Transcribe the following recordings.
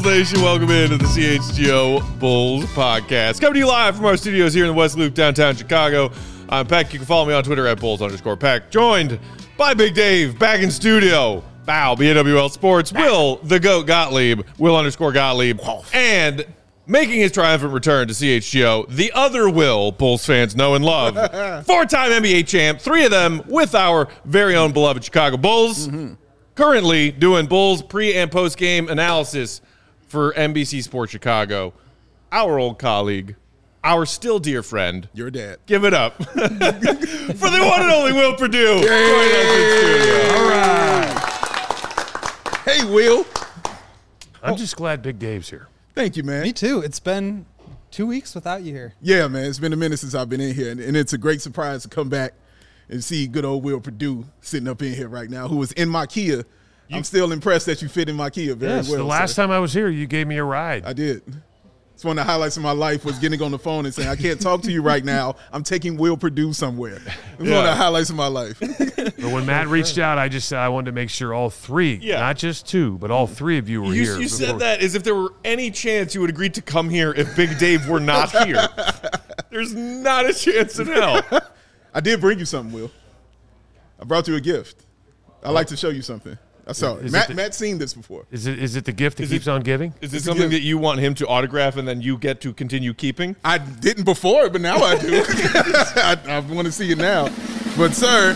Nation. Welcome into the CHGO Bulls podcast. Coming to you live from our studios here in the West Loop, downtown Chicago. I'm Peck. You can follow me on Twitter at Bulls_Peck. Joined by Big Dave, back in studio. Bow, BNWL Sports. Will, the GOAT Gottlieb, Will_Gottlieb. And making his triumphant return to CHGO, the other Will Bulls fans know and love. Four-time NBA champ, three of them with our very own beloved Chicago Bulls. Currently doing Bulls pre- and post-game analysis for NBC Sports Chicago. Our old colleague, our still dear friend. Your dad. Give it up for the one and only Will Perdue. All right. Hey, Will. I'm just glad Big Dave's here. Thank you, man. Me too. It's been 2 weeks without you here. Yeah, man. It's been a minute since I've been in here, and it's a great surprise to come back and see good old Will Perdue sitting up in here right now, who was in my Kia. I'm still impressed that you fit in my Kia very well. The last time I was here, you gave me a ride. I did. It's one of the highlights of my life was getting on the phone and saying, I can't talk to you right now. I'm taking Will Perdue somewhere. It was one of the highlights of my life. But when Matt reached out, I just said I wanted to make sure all three, not just two, but all three of you were here. You said that as if there were any chance you would agree to come here if Big Dave were not here. There's not a chance in hell. I did bring you something, Will. I brought you a gift. I'd like to show you something. I saw it. Matt's seen this before. Is it the gift that keeps on giving? Is it something that you want him to autograph and then you get to continue keeping? I didn't before, but now I do. I want to see it now. But, sir,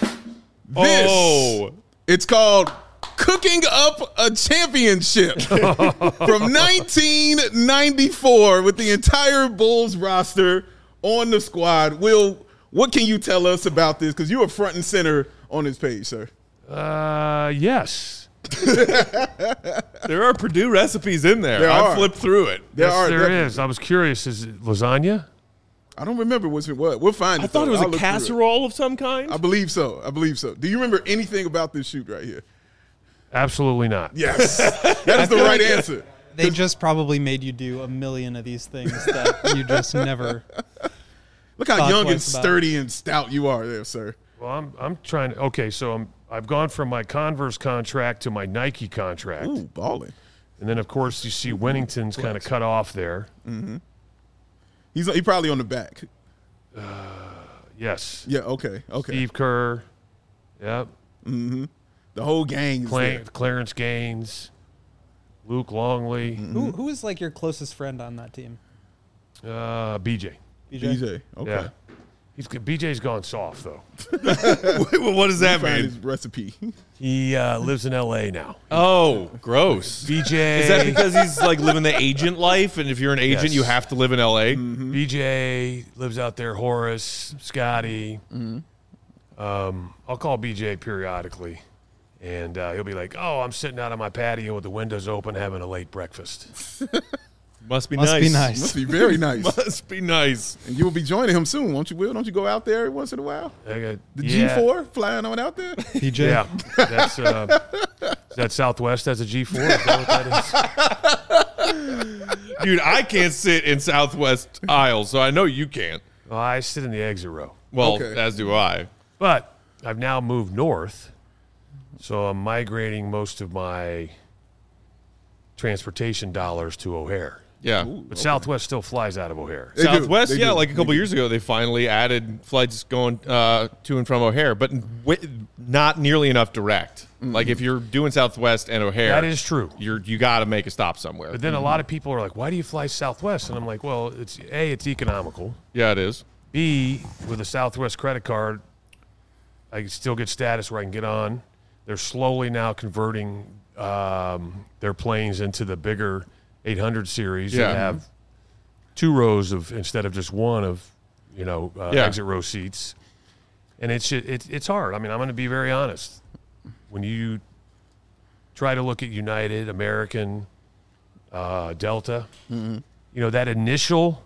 it's called Cooking Up a Championship from 1994 with the entire Bulls roster on the squad. Will, what can you tell us about this? Because you are front and center on this page, sir. Yes. There are Purdue recipes in there. I flipped through it. There is. I was curious. Is it lasagna? I don't remember what. We'll find it. I thought it was a casserole of some kind. I believe so. Do you remember anything about this shoot right here? Absolutely not. Yes. That is the right answer. They just probably made you do a million of these things that you just never. Look how young and sturdy and stout you are there, sir. Well, I'm trying to. Okay, so I've gone from my Converse contract to my Nike contract. Ooh, balling. And then, of course, you see Winnington's kind of cut off there. Mm-hmm. He's probably on the back. Yes. Yeah, okay. Steve Kerr. Yep. Mm-hmm. The whole gang is there. Clarence Gaines. Luke Longley. Mm-hmm. Who is like your closest friend on that team? BJ. BJ. Okay. Yeah. BJ's gone soft, though. Well, what does that mean? His recipe. He lives in L.A. now. Oh, gross. BJ. Is that because he's like living the agent life, and if you're an agent, you have to live in L.A.? Mm-hmm. BJ lives out there. Horace, Scotty. Mm-hmm. I'll call BJ periodically, and he'll be like, "Oh, I'm sitting out on my patio with the windows open, having a late breakfast." Must be nice. Must be very nice. Must be nice. And you will be joining him soon, won't you, Will? Don't you go out there once in a while? The G4 flying on out there? PJ. Yeah. That's that Southwest has a G4? Is that what that is? Dude, I can't sit in Southwest aisle, so I know you can't. Well, I sit in the exit row. Well, as do I. But I've now moved north, so I'm migrating most of my transportation dollars to O'Hare. Yeah. But Southwest still flies out of O'Hare. Southwest, like a couple years ago, they finally added flights going to and from O'Hare, but not nearly enough direct. Mm-hmm. Like if you're doing Southwest and O'Hare, that is true. You got to make a stop somewhere. But then a lot of people are like, "Why do you fly Southwest?" And I'm like, "Well, it's economical. Yeah, it is. B, with a Southwest credit card, I can still get status where I can get on. They're slowly now converting their planes into the bigger 800 series that have two rows of instead of just one of exit row seats, and it's hard. I mean, I'm going to be very honest. When you try to look at United, American, Delta, that initial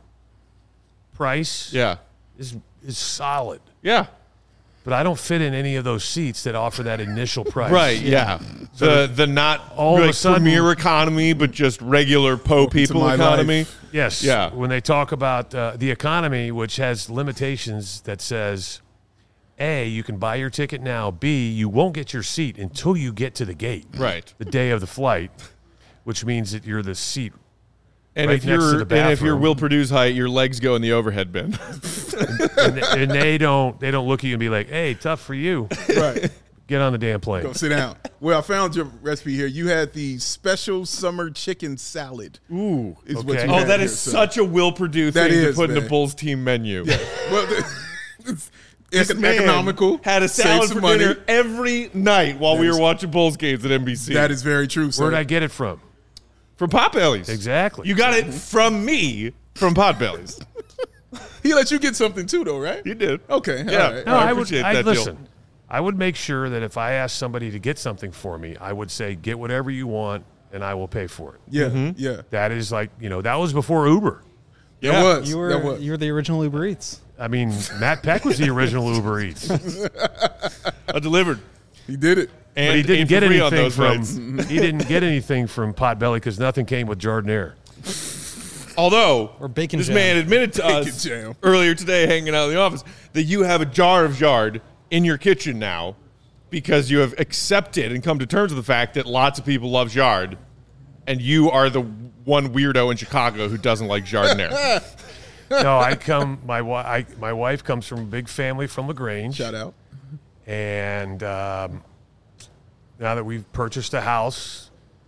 price is solid. Yeah. But I don't fit in any of those seats that offer that initial price. Right, yeah. The not all of a sudden, premier economy, but just regular people economy. Life. Yes. Yeah. When they talk about the economy, which has limitations that says, A, you can buy your ticket now. B, you won't get your seat until you get to the gate. Right. The day of the flight. which means that you're the seat. And right if next to you're the and if you're bathroom. Will Purdue's height, your legs go in the overhead bin. and they don't look at you and be like, "Hey, tough for you. Right. Get on the damn plane." Go sit down. Well, I found your recipe here. You had the special summer chicken salad. Ooh. Is what Okay. you Oh, had that here, is so. such a Will Purdue That thing to is, put in a man. Bulls team menu. Yeah. Well, it's This man economical. had a save salad some for money. dinner every night while we That were is- watching Bulls games at NBC. That is very true, sir. Where'd I get it from? from Potbellies. Exactly. You got it from me from Potbellies. He let you get something too, though, right? You did. Okay. Yeah. All right. No, I I would. appreciate I'd that deal. listen. I would make sure that if I asked somebody to get something for me, I would say, "Get whatever you want, and I will pay for it." Yeah. Yeah. That is like, that was before Uber. Yeah. That was. You that were was. you were the original Uber Eats. I mean, Matt Peck was the original Uber Eats, I delivered. He did it. And but he didn't and get for free on anything those from nights. he didn't get anything from Potbelly because nothing came with Jardiniere. Although Or bacon this jam. man admitted to Bacon us jam. earlier today, hanging out in the office, that you have a jar of Jard in your kitchen now because you have accepted and come to terms with the fact that lots of people love Jard, and you are the one weirdo in Chicago who doesn't like Jardiniere. No, my wife comes from a big family from LaGrange. Shout out. And now that we've purchased a house,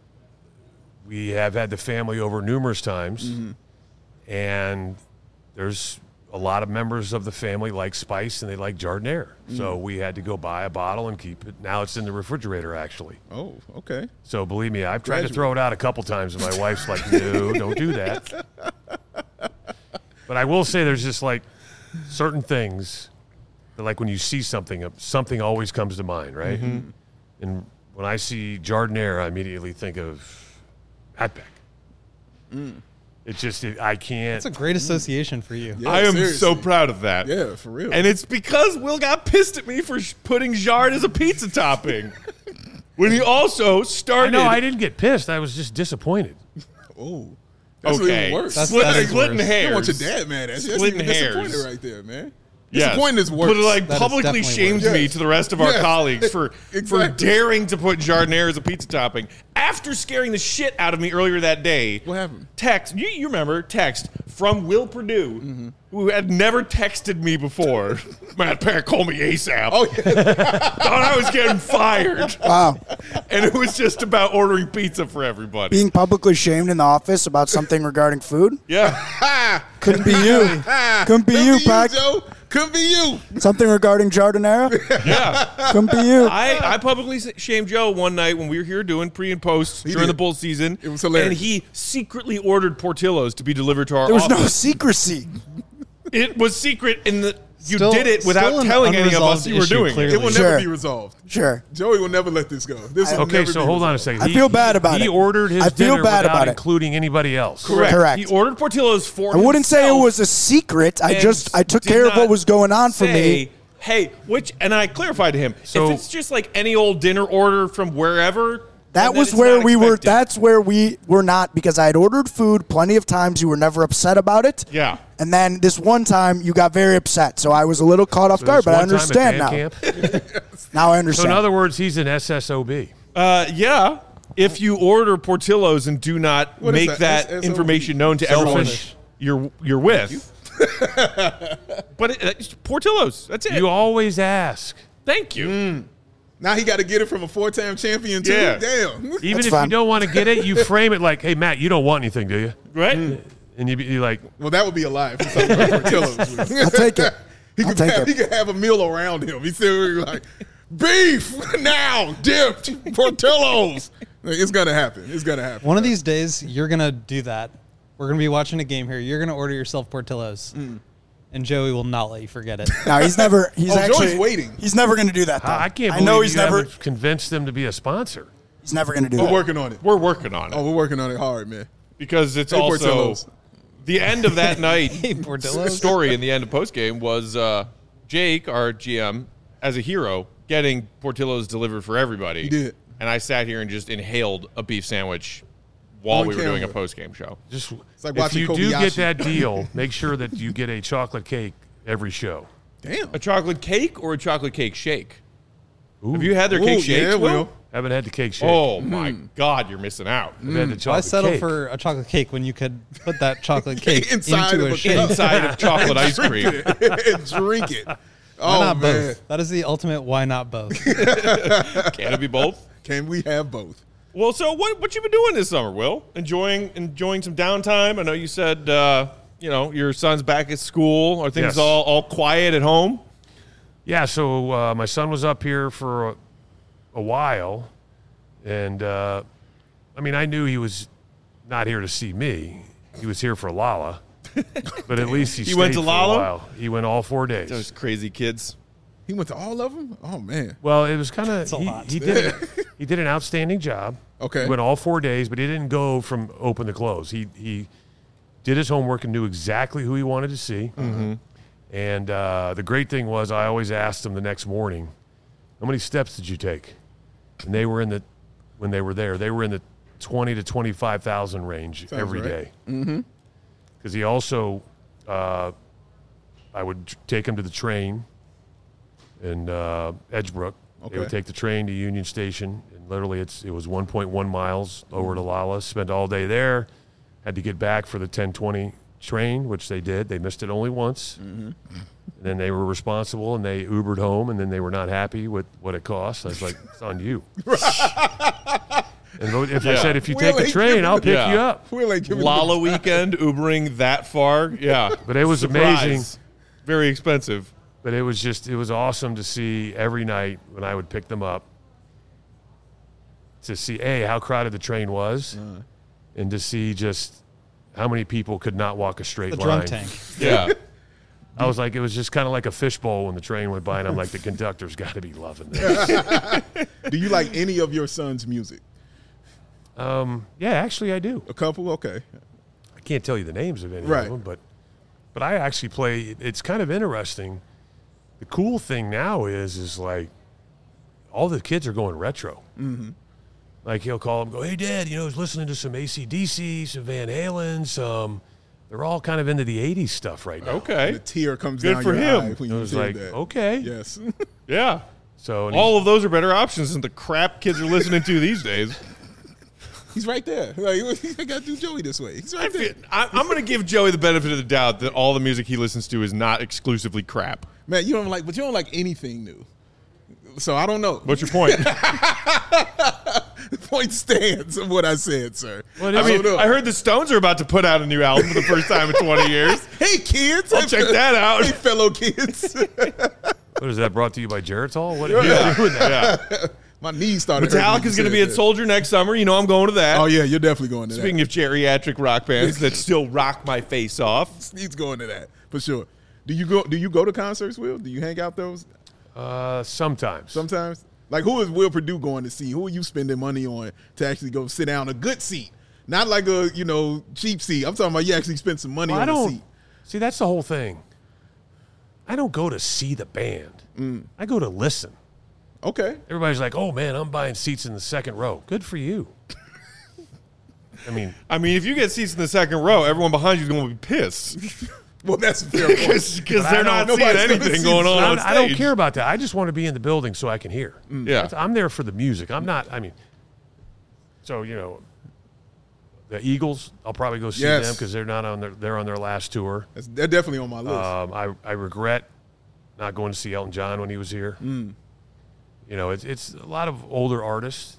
we have had the family over numerous times. And there's a lot of members of the family like spice and they like Jardiniere. So we had to go buy a bottle and keep it. Now it's in the refrigerator, actually. Oh, okay. So believe me, I've tried to Graduate. throw it out a couple times, and my wife's like, "No, don't do that." But I will say there's just like certain things that, like when you see something, something always comes to mind, right? And when I see Jardiniere, I immediately think of Matt Peck. It's just, I can't. That's a great association for you. Yeah, I am seriously. so proud of that. Yeah, for real. And it's because Will got pissed at me for putting Jard as a pizza topping. When he also started. No, I didn't get pissed. I was just disappointed. Oh, that's Okay. even worse. That's- Splitting, is splitting worse. You hairs. don't want your dad mad at you. That's Splitting even disappointed hairs. right there, man. Yes. Disappointing is worse. But it like That is publicly definitely shamed worse. me Yes. to the rest of our Yes. colleagues for Exactly. daring to put Jardiniere as a pizza topping after scaring the shit out of me earlier that day. What happened? Text, you remember, text from Will Purdue, who had never texted me before. Matt Peck, call me ASAP. Oh, yeah. Thought I was getting fired. Wow. And it was just about ordering pizza for everybody. Being publicly shamed in the office about something regarding food? Yeah. Couldn't be you. Couldn't be you, Pac. Joe. Couldn't be you. Something regarding Jardiniere? Yeah. Couldn't be you. I publicly shamed Joe one night when we were here doing pre and post during did. the Bulls season. It was hilarious. And he secretly ordered Portillo's to be delivered to our There was no office. secrecy. It was secret in the you Still- did it without still an telling any of us unresolved you were issue, doing clearly. it. It will Sure. never be resolved. Sure. Joey will never let this go. This will Okay, never so be hold on a resolved. second. I feel bad about He it. ordered his I feel dinner bad without about it. including anybody else. Correct. He ordered Portillo's for I wouldn't say it himself was a secret. I and took did care of not what was going on for say, me. Hey, and I clarified to him, So- if it's just like any old dinner order from wherever, That then was it's where not we were. expected. That's where we were not, because I had ordered food plenty of times. You were never upset about it. Yeah. And then this one time you got very upset. So I was a little caught off So guard, this but I one time at understand band now. camp? Now I So understand. in other words, he's an SSOB. Yeah. If you order Portillo's and do not What is make that? that SOB? information known to everyone Selfish. you're with. But it's Portillo's. That's it. You always ask. Thank you. Now he got to get it from a 4-time champion, too. Yeah. Damn. Even That's if fine. you don't want to get it, you frame it like, "Hey, Matt, you don't want anything, do you?" Right? And you're like, Well, that would be a lie for something like Portillo's. I'll take it. He I'll could take have, it. he could have a meal around him. He's still like, beef now, dipped, Portillo's. Like, it's gonna happen. It's gonna happen. One of these days, you're gonna do that. We're gonna be watching a game here. You're gonna order yourself Portillo's, and Joey will not let you forget it. No, he's never. He's Oh, actually Joey's waiting. He's never going to do that. Though. I can't I believe know he's you never. haven't convinced them to be a sponsor. He's never going to do We're that. working on it. We're working on it. Oh, we're working on it hard, man. Because it's Hey, also Portillo's. the end of that night. Hey, Portillo's. Story in the end of postgame was Jake, our GM, as a hero, getting Portillo's delivered for everybody. He did. And I sat here and just inhaled a beef sandwich while On we were doing a camera. postgame show. Just like if watching you do get Kobayashi. that deal, make sure that you get a chocolate cake every show. Damn. A chocolate cake or a chocolate cake shake? Ooh. Have you had their Ooh, cake shakes? yeah, Will? Will. Haven't had the cake shake. Oh my God, you're missing out. I've had the Why chocolate settle cake. for a chocolate cake when you could put that chocolate cake Inside into of a a shake? cup. Inside of chocolate ice cream. and drink it. Why Oh not man, both? That is the ultimate why not both. Can it be both? can we have both? Well, so what you been doing this summer, Will? Enjoying some downtime? I know you said your son's back at school. Are things Yes. all quiet at home? Yeah, so my son was up here for a while, and I knew he was not here to see me. He was here for Lala, but at least he went stayed to for Lala? a while. He went all 4 days. Those crazy kids. He went to all of them. Oh man. Well, it was kind of a lot. he did an outstanding job. Okay. He went all 4 days, but he didn't go from open to close. He did his homework and knew exactly who he wanted to see. Mm-hmm. And the great thing was, I always asked him the next morning, "How many steps did you take?" And they were when they were there, they were in the 20 to 25,000 range every right. day. Mm-hmm. Because he also, I would take him to the train in Edgebrook. They would Okay. take the train to Union Station, and literally it was 1.1 miles over to Lala. Spent all day there. Had to get back for the 10:20 train, which they did. They missed it only once. Mm-hmm. And then they were responsible, and they Ubered home, and then they were not happy with what it cost. I was like, it's on you. And if I said, if you take the train, I'll pick you up. Will ain't giving Lala weekend, Ubering that far. Yeah. But it was Surprise. amazing. Very expensive. But it was awesome to see every night when I would pick them up, to see, how crowded the train was, and to see just how many people could not walk a straight The line. drunk tank. Yeah. I was like, it was just kind of like a fishbowl when the train went by, and I'm like, the conductor's got to be loving this. Do you like any of your son's music? Yeah, actually I do. A couple? Okay. I can't tell you the names of any Right. of them, but I actually play. It's kind of interesting. The cool thing now is like all the kids are going retro. Mm-hmm. Like he'll call them, go, "Hey, Dad, I was listening to some AC/DC, some Van Halen, some." They're all kind of into the '80s stuff right now. Okay. The tear comes Good down for your him. eye when I you was said like, that. okay, Yes. Yeah. So and All of those are better options than the crap kids are listening to these days. He's right there. Like, I got to do Joey this way. He's right there. I'm going to give Joey the benefit of the doubt that all the music he listens to is not exclusively crap. Man, you don't like anything new. So I don't know. What's your point? The point stands of what I said, sir. What I is mean, don't know. I heard the Stones are about to put out a new album for the first time in 20 years. Hey, kids. I'll check that out. Hey, fellow kids. what is that brought to you by Geritol? What are you doing that? Yeah. My knees started hurting. Metallica's going to be at Soldier next summer. You know I'm going to that. Oh, yeah, you're definitely going to Speaking of geriatric rock bands that still rock my face off. that. He's going to that, for sure. Do you go to concerts, Will? Do you hang out those Sometimes. sometimes? Like, who is Will Perdue going to see? Who are you spending money on to actually go sit down a good seat? Not like a, cheap seat. I'm talking about you actually spend some money Well, on a seat. See, that's the whole thing. I don't go to see the band. I go to listen. Okay. Everybody's like, "Oh man, I'm buying seats in the second row." Good for you. I mean, If you get seats in the second row, everyone behind you is going to be pissed. Well, that's a fair point. Because they're not seeing nobody's gonna anything see going on on I don't stage. care about that. I just want to be in the building so I can hear. Yeah. I'm there for the music. I'm not. So the Eagles, I'll probably go see Yes. them because they're on their last tour. They're definitely on my list. I regret not going to see Elton John when he was here. It's a lot of older artists.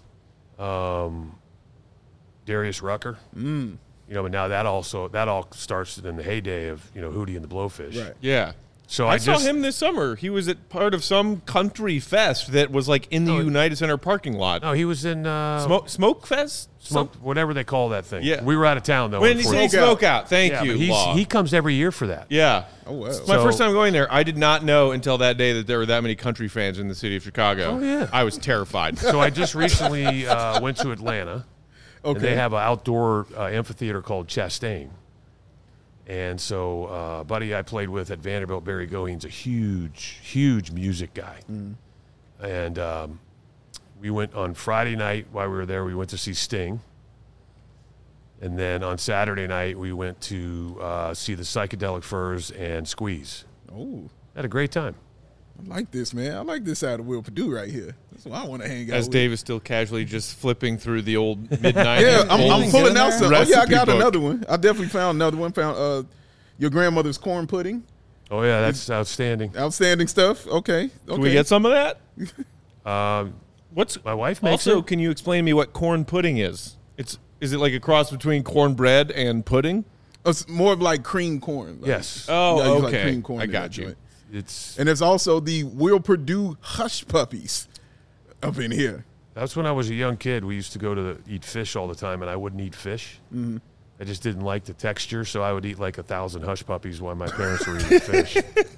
Darius Rucker. But now that all starts in the heyday of Hootie and the Blowfish. Right. Yeah. So I saw him this summer. He was at part of some country fest that was like in the United Center parking lot. No, he was in Smoke Fest? whatever they call that thing. Yeah. We were out of town though. When you say unfortunately. Smoke Out, thank Yeah, you, but Law. he comes every year for that. Yeah. Oh, wow. It's my So- first time going there. I did not know until that day that there were that many country fans in the city of Chicago. Oh, yeah. I was terrified. So I just recently went to Atlanta. Okay. And they have an outdoor amphitheater called Chastain. And so a buddy I played with at Vanderbilt, Barry Goheen's a huge, huge music guy. And we went on Friday night while we were there. We went to see Sting. And then on Saturday night, we went to see the Psychedelic Furs and Squeeze. Oh. Had a great time. I like this, man. I like this side of Will Purdue right here. That's what I want to hang out As with. Dave is still casually just flipping through the old mid-90s. Yeah, I'm Bulls pulling out some. Oh, yeah, I recipe got book. another one. I definitely found another one. Found your grandmother's corn pudding. Oh yeah, that's outstanding. Outstanding stuff. Okay. Can we get some of that? What's my wife makes Also, it? can you explain to me what corn pudding is? Is it like a cross between cornbread and pudding? It's more of like cream corn. Like, Yes. Oh, you use okay. like cream corn I in got that you. joint. It's And there's also the Will Purdue Hush Puppies up in here. that's when I was a young kid. We used to go to eat fish all the time, and I wouldn't eat fish. Mm-hmm. I just didn't like the texture, so I would eat like 1,000 Hush Puppies while my parents were eating fish.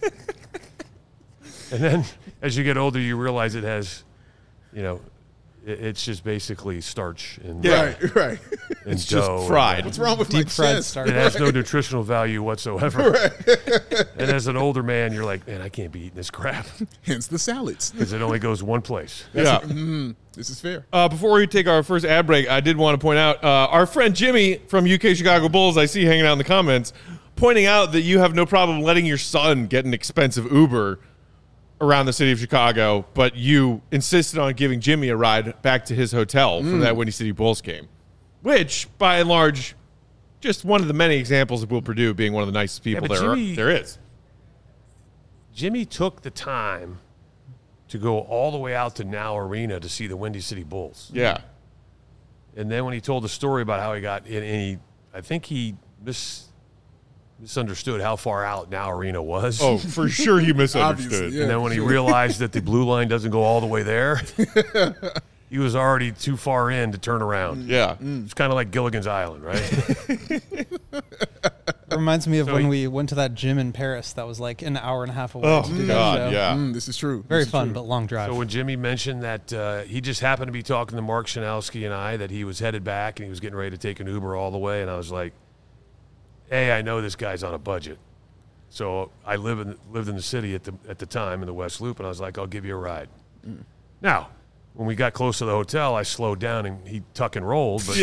And then, as you get older, you realize it has, it's just basically starch and Right. and It's dough. just fried. What's wrong with Deep my fried chest? starch. It has no nutritional value whatsoever. And as an older man, you're like, man, I can't be eating this crap Hence the salads. because it only goes one place. Yeah. This is fair. Before we take our first ad break, I did want to point out our friend Jimmy from UK Chicago Bulls, I see hanging out in the comments, pointing out that you have no problem letting your son get an expensive Uber around the city of Chicago, but you insisted on giving Jimmy a ride back to his hotel for that Windy City Bulls game, which, by and large, just one of the many examples of Will Purdue being one of the nicest people but Jimmy- there is. Jimmy took the time to go all the way out to Now Arena to see the Windy City Bulls. Yeah. And then when he told the story about how he got in, I think he misunderstood how far out Now Arena was. Oh, for sure he misunderstood. Obviously, yeah. And then when he realized that the blue line doesn't go all the way there, he was already too far in to turn around. Yeah. It's kind of like Gilligan's Island, right? Reminds me of So when he- we went to that gym in Paris that was like an hour and a half away Oh, to do that God, show. yeah. This is true. Very This is fun, true. but long drive. So when Jimmy mentioned that he just happened to be talking to Mark Shanowski and I, that he was headed back and he was getting ready to take an Uber all the way, and I was like, hey, I know this guy's on a budget. So I lived in the city at the time in the West Loop, and I was like, I'll give you a ride. Now, when we got close to the hotel, I slowed down and he tuck and rolled, but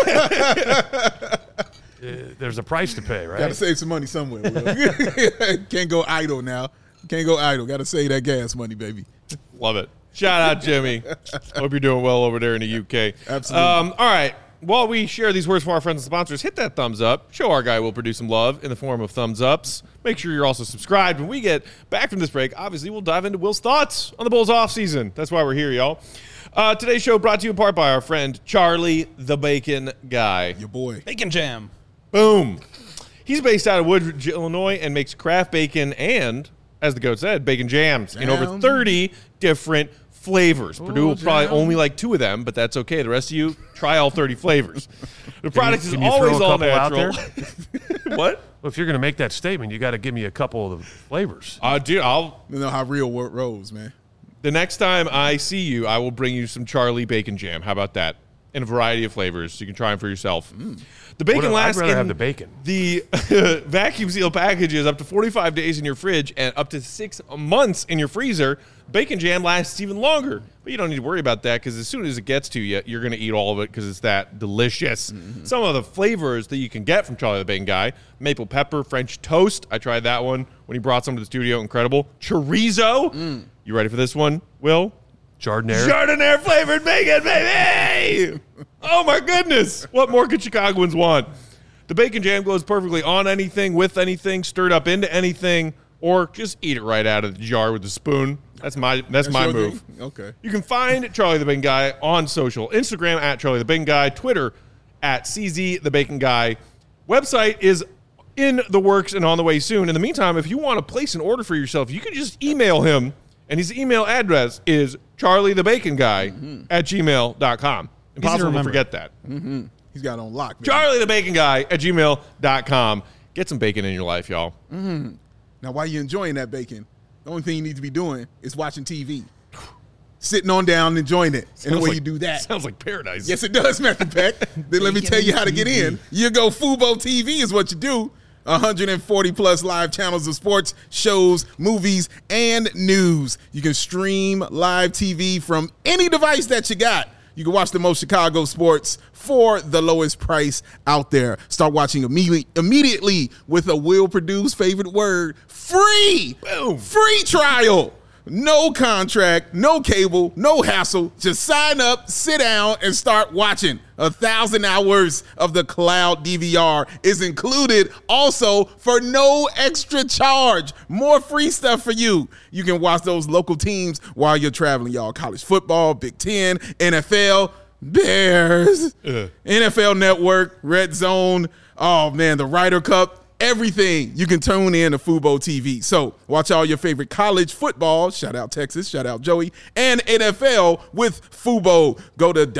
there's a price to pay, right? Got to save some money somewhere. Will. Can't go idle now. Can't go idle. Got to save that gas money, baby. Love it. Shout out, Jimmy. Hope you're doing well over there in the UK. Absolutely. All right. While we share these words from our friends and sponsors, hit that thumbs up. Show our guy Will Purdue some love in the form of thumbs ups. Make sure you're also subscribed. When we get back from this break, obviously we'll dive into Will's thoughts on the Bulls offseason. That's why we're here, y'all. Today's show brought to you in part by our friend Charlie the Bacon Guy. Your boy. Bacon Jam. Boom. He's based out of Woodridge, Illinois, and makes craft bacon and, as the goat said, bacon jams in over Jam. 30 different flavors. Purdue will probably jam. only like 2 of them, but that's okay. The rest of you, try all 30 flavors. The product is can you always throw a all couple out natural. What? Well, if you're going to make that statement, you got to give me a couple of the flavors. Dude, You know how real work rolls, man. the next time I see you, I will bring you some Charlie bacon jam. How about that? In a variety of flavors. You can try them for yourself. The bacon I'd lasts rather in have the bacon. The vacuum seal packages up to 45 days in your fridge and up to 6 months in your freezer. Bacon jam lasts even longer, but you don't need to worry about that because as soon as it gets to you, you're going to eat all of it because it's that delicious. Some of the flavors that you can get from Charlie the Bacon Guy: maple pepper, French toast. I tried that one when he brought some to the studio. Incredible. Chorizo. You ready for this one, Will? Chardonnay. Chardonnay flavored bacon, baby! Oh my goodness! What more could Chicagoans want? The bacon jam goes perfectly on anything, with anything, stirred up into anything, or just eat it right out of the jar with a spoon. That's my your move. thing? Okay. You can find Charlie the Bacon Guy on social: Instagram at Charlie the Bacon Guy, Twitter at CZ the Bacon Guy. Website is in the works and on the way soon. In the meantime, if you want to place an order for yourself, you can just email him, and his email address is charliethebaconguy@gmail.com. Impossible to remember. forget that. He's got it on lock, man. charliethebaconguy@gmail.com. Get some bacon in your life, y'all. Now, while you're enjoying that bacon, the only thing you need to be doing is watching TV. Sitting on down and enjoying it. And the way you do that. Sounds like paradise. Yes, it does, Matthew Peck. Then let me tell you how to get in. You go Fubo TV is what you do. 140 plus live channels of sports, shows, movies, and news. You can stream live TV from any device that you got. You can watch the most Chicago sports for the lowest price out there. Start watching immediately with a Will Purdue's favorite word, free. Boom. Free trial. No contract, no cable, no hassle. Just sign up, sit down, and start watching. 1,000 hours of the cloud DVR is included also for no extra charge. More free stuff for you. You can watch those local teams while you're traveling, y'all. College football, Big Ten, NFL, Bears, NFL Network, Red Zone. Oh, man, the Ryder Cup. Everything you can tune in to Fubo TV. So watch all your favorite college football, shout out Texas, shout out Joey, and NFL with Fubo. Go to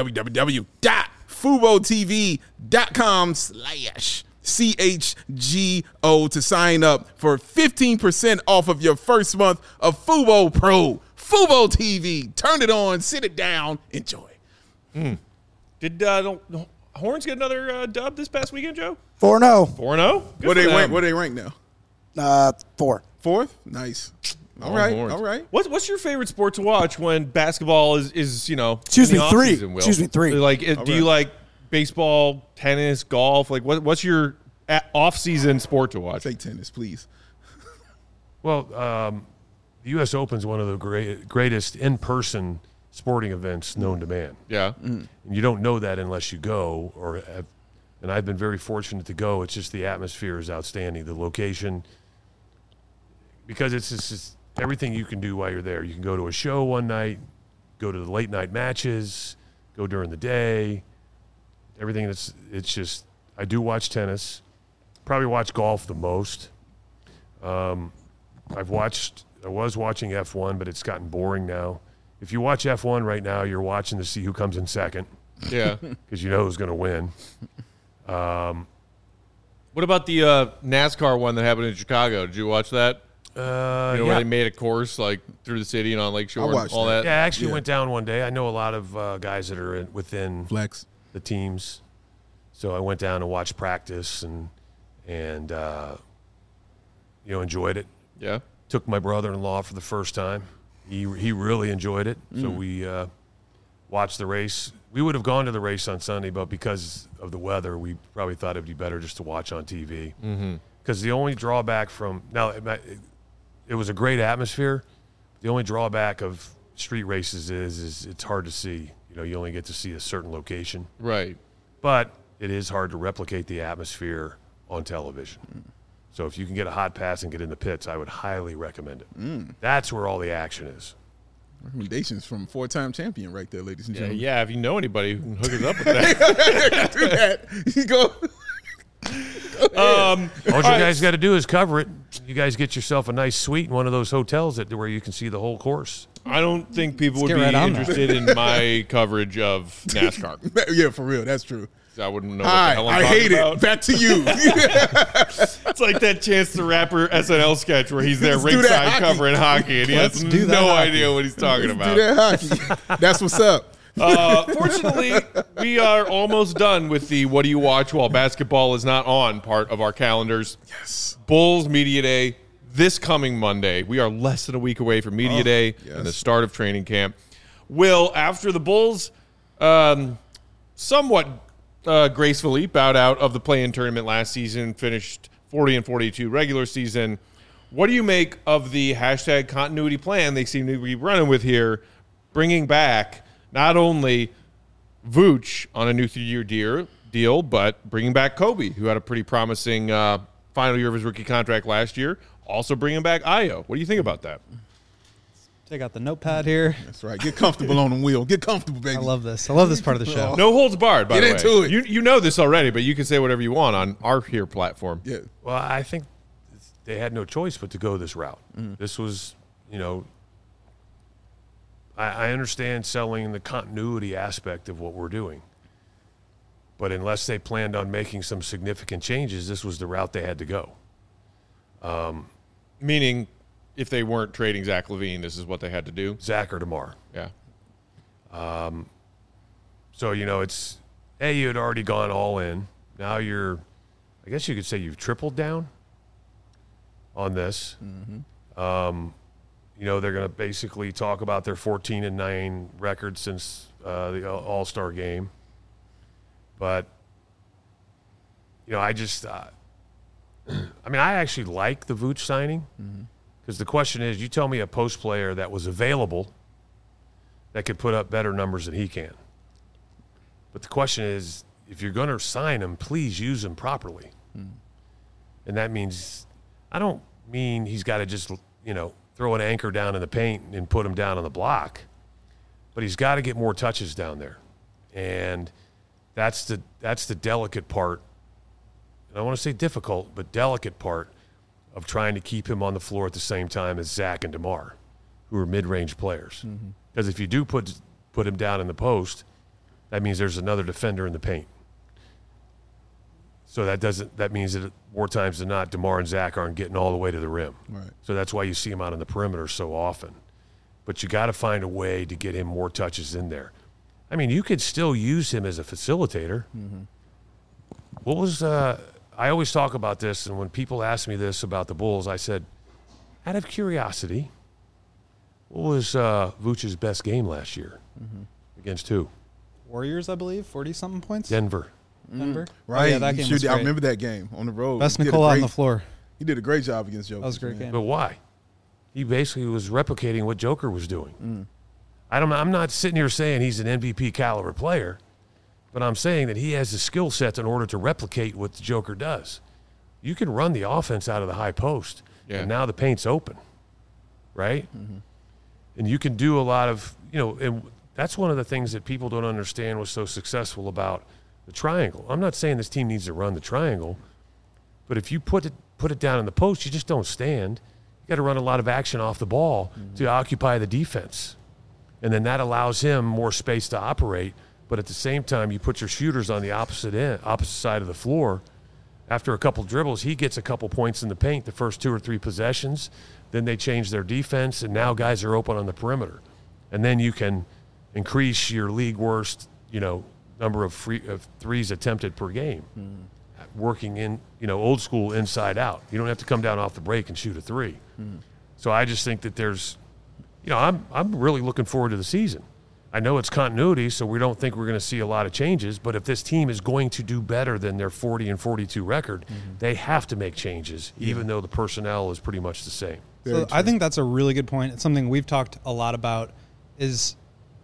www.FuboTV.com/CHGO to sign up for 15% off of your first month of Fubo Pro. Fubo TV. Turn it on, sit it down, enjoy. Did Horns get another dub this past weekend, Joe? 4-0. 4-0? What they rank now? 4. Fourth? Nice. All right. Horns. All right. What's your favorite sport to watch when basketball is Excuse in me, the 3. off-season, Will? Excuse me, 3. Like, do right. you like baseball, tennis, golf? Like, what's your off-season sport to watch? Say tennis, please. Well, the U.S. Open is one of the greatest in-person sporting events known to man. Yeah. And you don't know that unless you go, and I've been very fortunate to go. It's just the atmosphere is outstanding. The location, because it's just everything you can do while you're there. You can go to a show one night, go to the late night matches, go during the day. Everything it's just, I do watch tennis, probably watch golf the most. I was watching F1, but it's gotten boring now. If you watch F1 right now, you're watching to see who comes in second. Yeah. Because you know who's going to win. What about the NASCAR one that happened in Chicago? Did you watch that? Where they made a course like through the city and on Lakeshore and watched all that? Yeah, I actually went down one day. I know a lot of guys that are within Flex. the teams. So I went down and watched practice and enjoyed it. Yeah. Took my brother-in-law for the first time. He really enjoyed it. So we watched the race. We would have gone to the race on Sunday, but because of the weather, we probably thought it would be better just to watch on TV. Because the only drawback it was a great atmosphere. The only drawback of street races is it's hard to see. You only get to see a certain location. Right. But it is hard to replicate the atmosphere on television. So if you can get a hot pass and get in the pits, I would highly recommend it. That's where all the action is. Recommendations from 4-time champion right there, ladies and gentlemen. Yeah, if you know anybody who can hook us up with that. Do that. You go. All you guys got to do is cover it. You guys get yourself a nice suite in one of those hotels where you can see the whole course. I don't think people would get be right on that. interested in my coverage of NASCAR. Yeah, for real. That's true. I wouldn't know what Hi, the hell I'm I talking hate about. it. Back to you. It's like that Chance the Rapper SNL sketch where he's there Let's do that ringside hockey. covering hockey and he has do that no hockey. idea what he's talking Do about. that hockey. That's what's up. Fortunately, we are almost done with the what do you watch while basketball is not on part of our calendars. Yes. Bulls Media Day this coming Monday. We are less than a week away from Media Day and the start of training camp. Will, after the Bulls somewhat gracefully bowed out of the play-in tournament last season, finished 40-42 regular season, what do you make of the hashtag continuity plan they seem to be running with here, bringing back not only Vooch on a new 3-year deal, but bringing back Kobe, who had a pretty promising final year of his rookie contract last year, also bringing back Ayo. What do you think about that? Take out the notepad here. That's right. Get comfortable on the wheel. Get comfortable, baby. I love this. I love this part of the show. No holds barred, by Get the way. into it. You know this already, but you can say whatever you want on our here platform. Yeah. Well, I think they had no choice but to go this route. This was, I understand selling the continuity aspect of what we're doing. But unless they planned on making some significant changes, this was the route they had to go. Meaning, if they weren't trading Zach LaVine, this is what they had to do. Zach or DeMar. Yeah. So, it's, hey, you had already gone all in. Now I guess you could say you've tripled down on this. They're going to basically talk about their 14-9 record since the All-Star game. But, I just, I actually like the Vooch signing. Because the question is, you tell me a post player that was available that could put up better numbers than he can. But the question is, if you're going to sign him, please use him properly. And that means, I don't mean he's got to just, throw an anchor down in the paint and put him down on the block. But he's got to get more touches down there. And that's the delicate part. And I want to say difficult, but delicate part of trying to keep him on the floor at the same time as Zach and DeMar, who are mid-range players. Because if you do put him down in the post, that means there's another defender in the paint. So that means that more times than not, DeMar and Zach aren't getting all the way to the rim. Right. So that's why you see him out on the perimeter so often. But you got to find a way to get him more touches in there. I mean, you could still use him as a facilitator. What was I always talk about this, and when people ask me this about the Bulls, I said, out of curiosity, what was Vooch's best game last year? Against who? Warriors, I believe, 40-something points. Denver. Denver. Right. Oh, yeah, that game was I great. remember that game on the road. Best He did a Nikola on great- the floor. He did a great job against Jokic. That was a great game. But why? He basically was replicating what Joker was doing. I'm not sitting here saying he's an MVP caliber player, but I'm saying that he has the skill sets in order to replicate what the Joker does. You can run the offense out of the high post, and now the paint's open, right? And you can do a lot of, and that's one of the things that people don't understand was so successful about the triangle. I'm not saying this team needs to run the triangle, but if you put it down in the post, you just don't stand. You got to run a lot of action off the ball to occupy the defense. And then that allows him more space to operate. But at the same time, you put your shooters on the opposite side of the floor. After a couple dribbles, he gets a couple points in the paint the first 2 or 3 possessions. Then they change their defense, and now guys are open on the perimeter. And then you can increase your league worst, number of threes attempted per game. Working in, old school inside out. You don't have to come down off the break and shoot a 3. So I just think that there's, I'm really looking forward to the season. I know it's continuity, so we don't think we're going to see a lot of changes, but if this team is going to do better than their 40-42 record, they have to make changes, even though the personnel is pretty much the same. So I think that's a really good point. It's something we've talked a lot about, is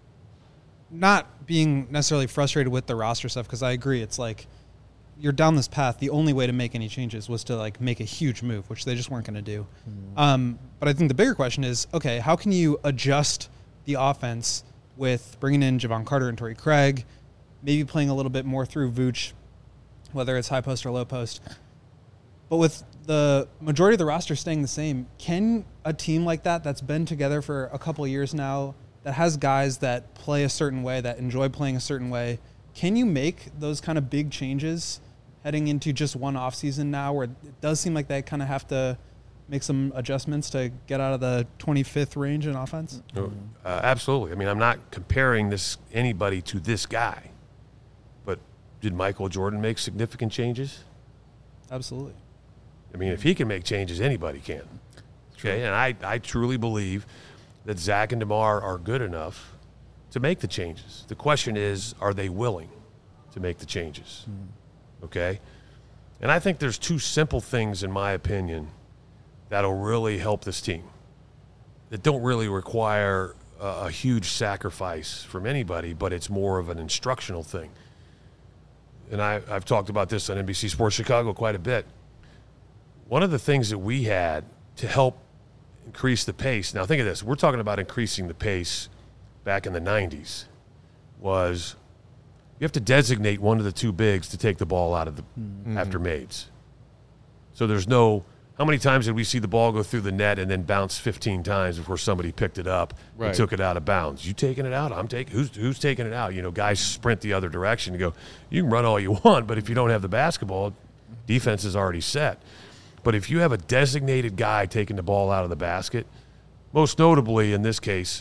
not being necessarily frustrated with the roster stuff, because I agree. It's like you're down this path. The only way to make any changes was to make a huge move, which they just weren't going to do. But I think the bigger question is, okay, how can you adjust the offense with bringing in Javon Carter and Torrey Craig, maybe playing a little bit more through Vooch, whether it's high post or low post. But with the majority of the roster staying the same, can a team like that's been together for a couple of years now, that has guys that play a certain way, that enjoy playing a certain way, can you make those kind of big changes heading into just one offseason now, where it does seem like they kind of have to make some adjustments to get out of the 25th range in offense? Absolutely. I mean, I'm not comparing anybody to this guy, but did Michael Jordan make significant changes? Absolutely. I mean, if he can make changes, anybody can. Okay, and I truly believe that Zach and DeMar are good enough to make the changes. The question is, are they willing to make the changes? Okay? And I think there's 2 simple things, in my opinion, that'll really help this team, that don't really require a huge sacrifice from anybody, but it's more of an instructional thing. And I've talked about this on NBC Sports Chicago quite a bit. One of the things that we had to help increase the pace, now think of this, we're talking about increasing the pace back in the 90s, was you have to designate one of the 2 bigs to take the ball out of the after Mades. So there's no, how many times did we see the ball go through the net and then bounce 15 times before somebody picked it up and took it out of bounds? You taking it out? I'm taking. Who's taking it out? Guys sprint the other direction and go, you can run all you want, but if you don't have the basketball, defense is already set. But if you have a designated guy taking the ball out of the basket, most notably in this case,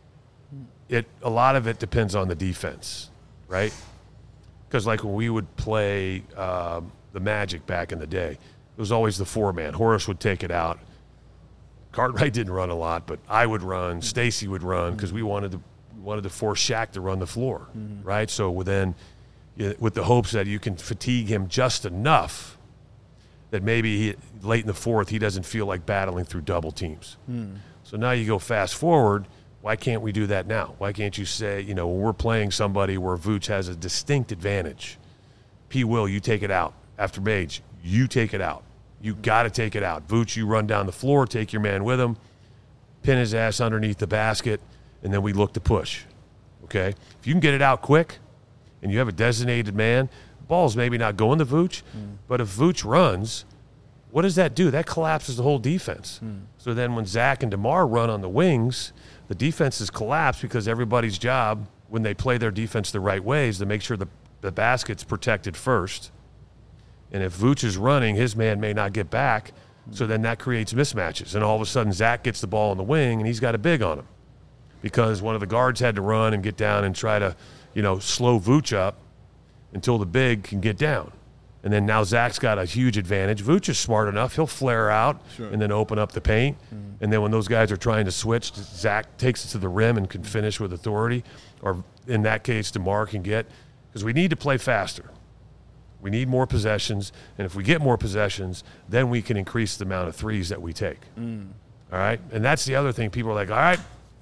a lot of it depends on the defense, right? Because like when we would play the Magic back in the day, it was always the 4-man. Horace would take it out. Cartwright didn't run a lot, but I would run. Stacy would run because we wanted to force Shaq to run the floor, right? So with the hopes that you can fatigue him just enough that maybe late in the fourth he doesn't feel like battling through double teams. So now you go fast forward. Why can't we do that now? Why can't you say, when we're playing somebody where Vooch has a distinct advantage, P. Will, you take it out. After Mage, you take it out. You got to take it out. Vooch, you run down the floor, take your man with him, pin his ass underneath the basket, and then we look to push. Okay? If you can get it out quick and you have a designated man, the ball's maybe not going to Vooch, but if Vooch runs, what does that do? That collapses the whole defense. So then when Zach and DeMar run on the wings, the defenses collapse because everybody's job, when they play their defense the right way, is to make sure the basket's protected first. And if Vooch is running, his man may not get back, so then that creates mismatches. And all of a sudden, Zach gets the ball on the wing, and he's got a big on him because one of the guards had to run and get down and try to, slow Vooch up until the big can get down. And then now Zach's got a huge advantage. Vooch is smart enough. He'll flare out and then open up the paint. And then when those guys are trying to switch, Zach takes it to the rim and can finish with authority. Or in that case, DeMar can get – because we need to play faster. We need more possessions. And if we get more possessions, then we can increase the amount of threes that we take. All right? And that's the other thing. People are like, all right,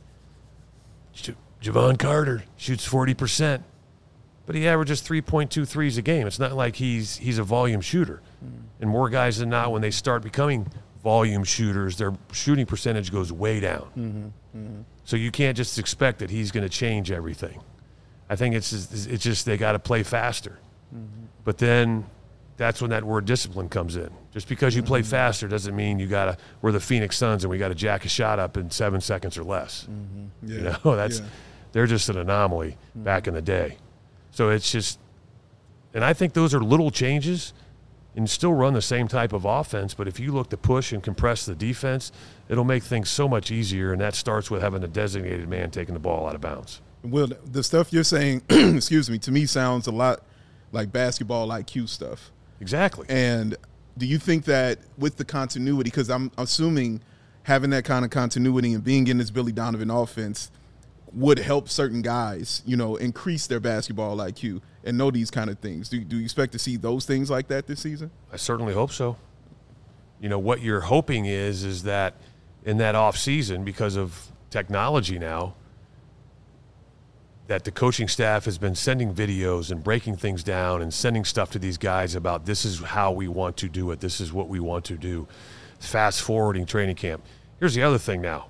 Javon Carter shoots 40%. But he averages 3.2 threes a game. It's not like he's a volume shooter. And more guys than not, when they start becoming volume shooters, their shooting percentage goes way down. So you can't just expect that he's going to change everything. I think it's just they got to play faster. But then that's when that word discipline comes in. Just because you play faster doesn't mean we're the Phoenix Suns and we got to jack a shot up in 7 seconds or less. They're just an anomaly back in the day. So it's just, and I think those are little changes and still run the same type of offense. But if you look to push and compress the defense, it'll make things so much easier. And that starts with having a designated man taking the ball out of bounds. Well, the stuff you're saying, excuse me, to me sounds a lot like basketball IQ stuff. Exactly. And do you think that with the continuity, because I'm assuming having that kind of continuity and being in this Billy Donovan offense would help certain guys, increase their basketball IQ and know these kind of things. Do you expect to see those things like that this season? I certainly hope so. What you're hoping is that in that off season, because of technology now, that the coaching staff has been sending videos and breaking things down and sending stuff to these guys about this is how we want to do it. This is what we want to do. Fast forwarding training camp. Here's the other thing now.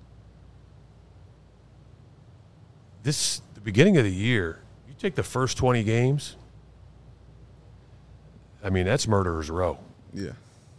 The beginning of the year, you take the first 20 games, I mean, that's murderer's row. Yeah.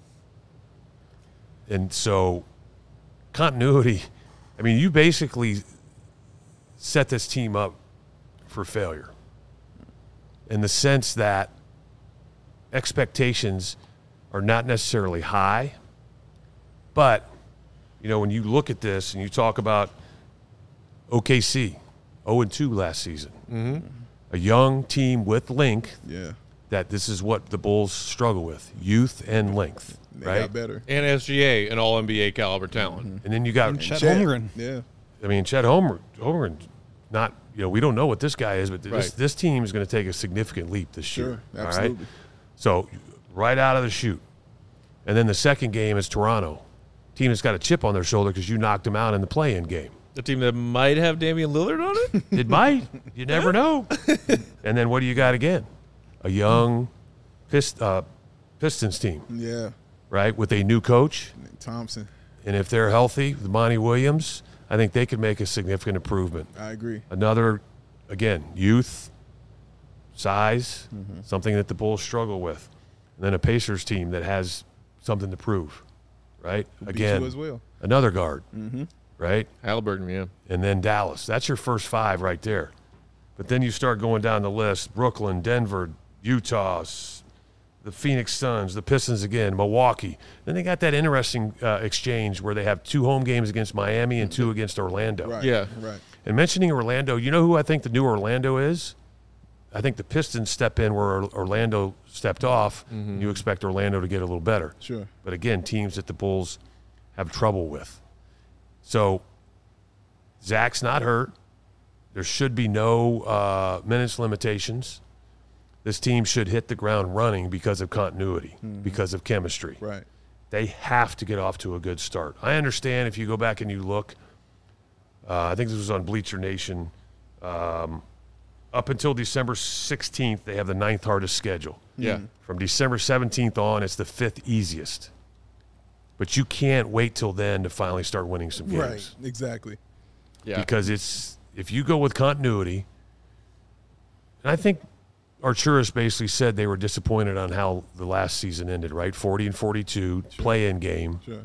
And so continuity, I mean, you basically set this team up for failure in the sense that expectations are not necessarily high, but, when you look at this and you talk about OKC, 0-2 last season. A young team with length. Yeah. That this is what the Bulls struggle with: youth and length. They right? got better. And SGA, an All-NBA caliber talent. And then you got Chet Holmgren. Yeah. I mean, Chet Holmgren, not we don't know what this guy is, but this team is going to take a significant leap this year. Sure, absolutely. All right? So right out of the chute, and then the second game is Toronto, team that's got a chip on their shoulder because you knocked them out in the play-in game. The team that might have Damian Lillard on it? It might. You never know. And then what do you got again? A young Pistons team, Yeah. right, with a new coach. Thompson. And if they're healthy, with Monty Williams, I think they could make a significant improvement. I agree. Another, again, youth, size, something that the Bulls struggle with. And then a Pacers team that has something to prove, right? Again, as well. Another guard, right? Halliburton, yeah. And then Dallas. That's your first five right there. But then you start going down the list: Brooklyn, Denver, Utah, the Phoenix Suns, the Pistons again, Milwaukee. Then they got that interesting exchange where they have 2 home games against Miami and 2 against Orlando. Right. Yeah. Right. And mentioning Orlando, you know who I think the new Orlando is? I think the Pistons step in where Orlando stepped off. You expect Orlando to get a little better. Sure. But again, teams that the Bulls have trouble with. So Zach's not hurt. There should be no minutes limitations. this team should hit the ground running because of continuity, because of chemistry. Right. They have to get off to a good start. I understand if you go back and you look, I think this was on Bleacher Nation, up until December 16th, they have the 9th hardest schedule. Yeah. From December 17th on, it's the 5th easiest. But you can't wait till then to finally start winning some games. Right. Exactly. Yeah. Because if you go with continuity, and I think Arturis basically said they were disappointed on how the last season ended, right? 40-42, play-in game. Sure.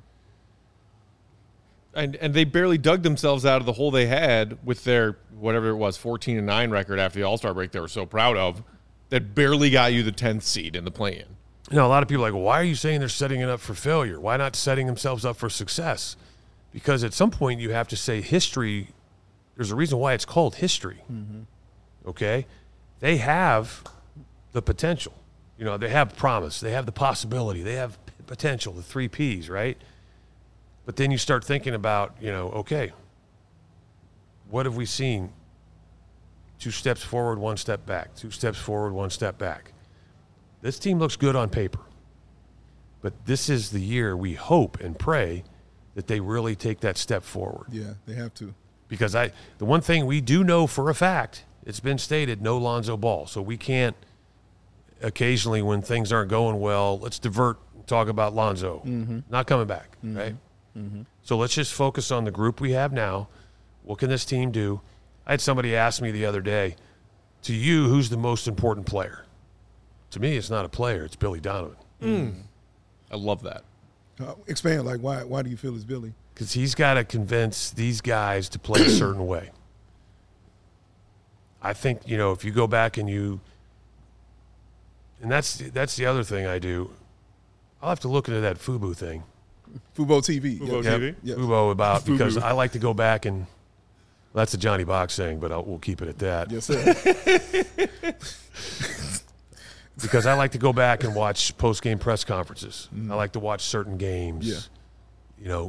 And they barely dug themselves out of the hole they had with their, whatever it was, 14-9 record after the All-Star break they were so proud of, that barely got you the 10th seed in the play-in. You know, a lot of people are like, well, why are you saying they're setting it up for failure? Why not setting themselves up for success? Because at some point you have to say history, there's a reason why it's called history. Okay? They have the potential. You know, they have promise. They have the possibility. They have potential, the 3 Ps, right? But then you start thinking about, you know, okay, what have we seen? 2 steps forward, 1 step back. 2 steps forward, 1 step back. This team looks good on paper. But this is the year we hope and pray that they really take that step forward. Yeah, they have to. Because the one thing we do know for a fact, it's been stated, no Lonzo Ball. So we can't occasionally when things aren't going well, let's divert and talk about Lonzo. Not coming back, right? So let's just focus on the group we have now. What can this team do? I had somebody ask me the other day, to you, who's the most important player? To me, it's not a player. It's Billy Donovan. I love that. Expand, like, why do you feel it's Billy? Because he's got to convince these guys to play a certain way. I think, you know, if you go back and that's the other thing I do. I'll have to look into that FUBU thing. Fubo TV. Fubo Yep. TV? Yep. FUBO about, because FUBU. I like to go back and, well, that's a Johnny Box thing, but we'll keep it at that. Yes, sir. Because I like to go back and watch post-game press conferences. I like to watch certain games. Yeah. You know,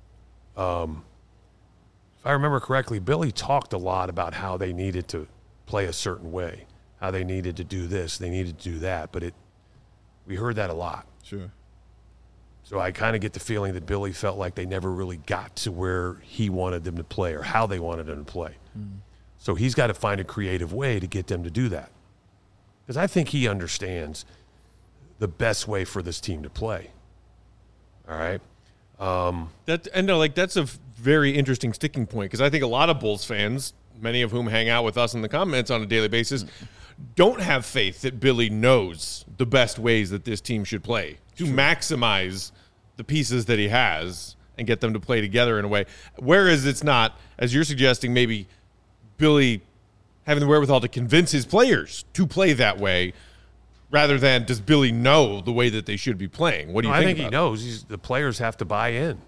if I remember correctly, Billy talked a lot about how they needed to play a certain way, how they needed to do this, they needed to do that. But we heard that a lot. Sure. So I kind of get the feeling that Billy felt like they never really got to where he wanted them to play or how they wanted them to play. So he's got to find a creative way to get them to do that. Because I think he understands the best way for this team to play. All right? That's a very interesting sticking point, because I think a lot of Bulls fans, many of whom hang out with us in the comments on a daily basis, don't have faith that Billy knows the best ways that this team should play to maximize the pieces that he has and get them to play together in a way. Whereas it's not, as you're suggesting, maybe Billy having the wherewithal to convince his players to play that way, rather than does Billy know the way that they should be playing? What do you think? I think about he knows. The players have to buy in.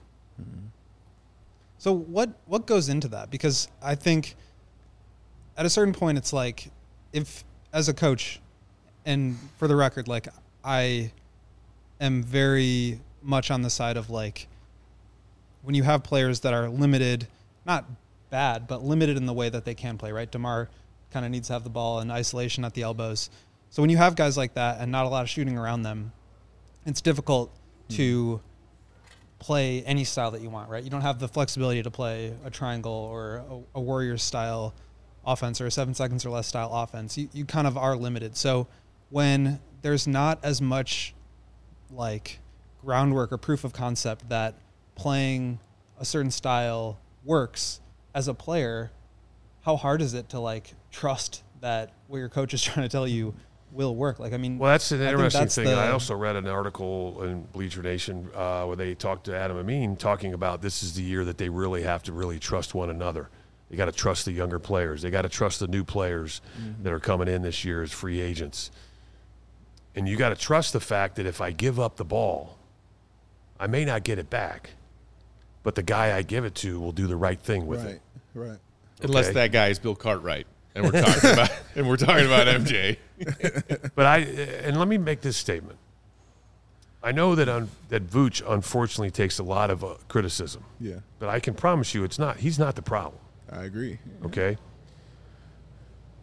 So what goes into that? Because I think at a certain point, it's like, if as a coach, and for the record, like, I am very much on the side of, like, when you have players that are limited, not bad, but limited in the way that they can play, right? DeMar kind of needs to have the ball in isolation at the elbows. So when you have guys like that and not a lot of shooting around them, it's difficult to play any style that you want, right? You don't have the flexibility to play a triangle or a Warriors style offense or a 7 seconds or less style offense. You kind of are limited. So when there's not as much like groundwork or proof of concept that playing a certain style works as a player, how hard is it to like trust that what your coach is trying to tell you will work? Like, I mean, Well, that's an I think interesting thing. that's I also read an article in Bleacher Nation where they talked to Adam Amin, talking about this is the year that they really have to really trust one another. They got to trust the younger players. They got to trust the new players that are coming in this year as free agents. And you got to trust the fact that if I give up the ball, I may not get it back, but the guy I give it to will do the right thing with it. Right. Unless Okay. that guy is Bill Cartwright, and we're talking about MJ. But and let me make this statement. I know that that Vooch unfortunately takes a lot of criticism. Yeah, But I can promise you he's not the problem. I agree. Okay?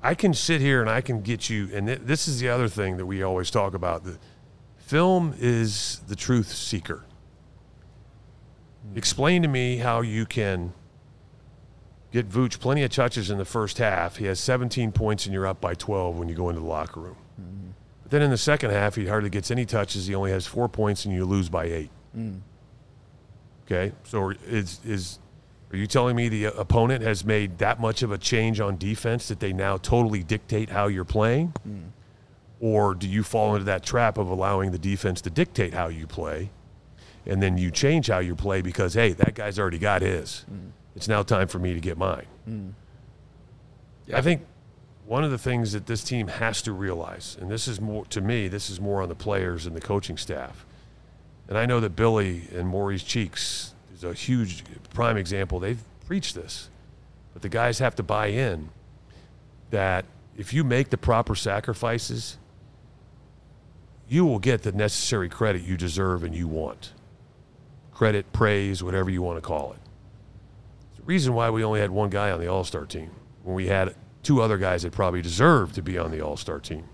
I can sit here and I can get you, and this is the other thing that we always talk about. The film is the truth seeker. Explain to me how you can get Vooch plenty of touches in the first half. He has 17 points and you're up by 12 when you go into the locker room. But then in the second half, he hardly gets any touches. He only has 4 points and you lose by 8. Okay, so are you telling me the opponent has made that much of a change on defense that they now totally dictate how you're playing? Or do you fall into that trap of allowing the defense to dictate how you play, and then you change how you play because, hey, that guy's already got his. It's now time for me to get mine. I think one of the things that this team has to realize, and this is more, to me, this is more on the players and the coaching staff. And I know that Billy and Maurice Cheeks is a huge prime example. They've preached this. But the guys have to buy in that if you make the proper sacrifices, you will get the necessary credit you deserve and you want. Credit, praise, whatever you want to call it. It's the reason why we only had one guy on the All-Star team when we had 2 other guys that probably deserved to be on the All-Star team.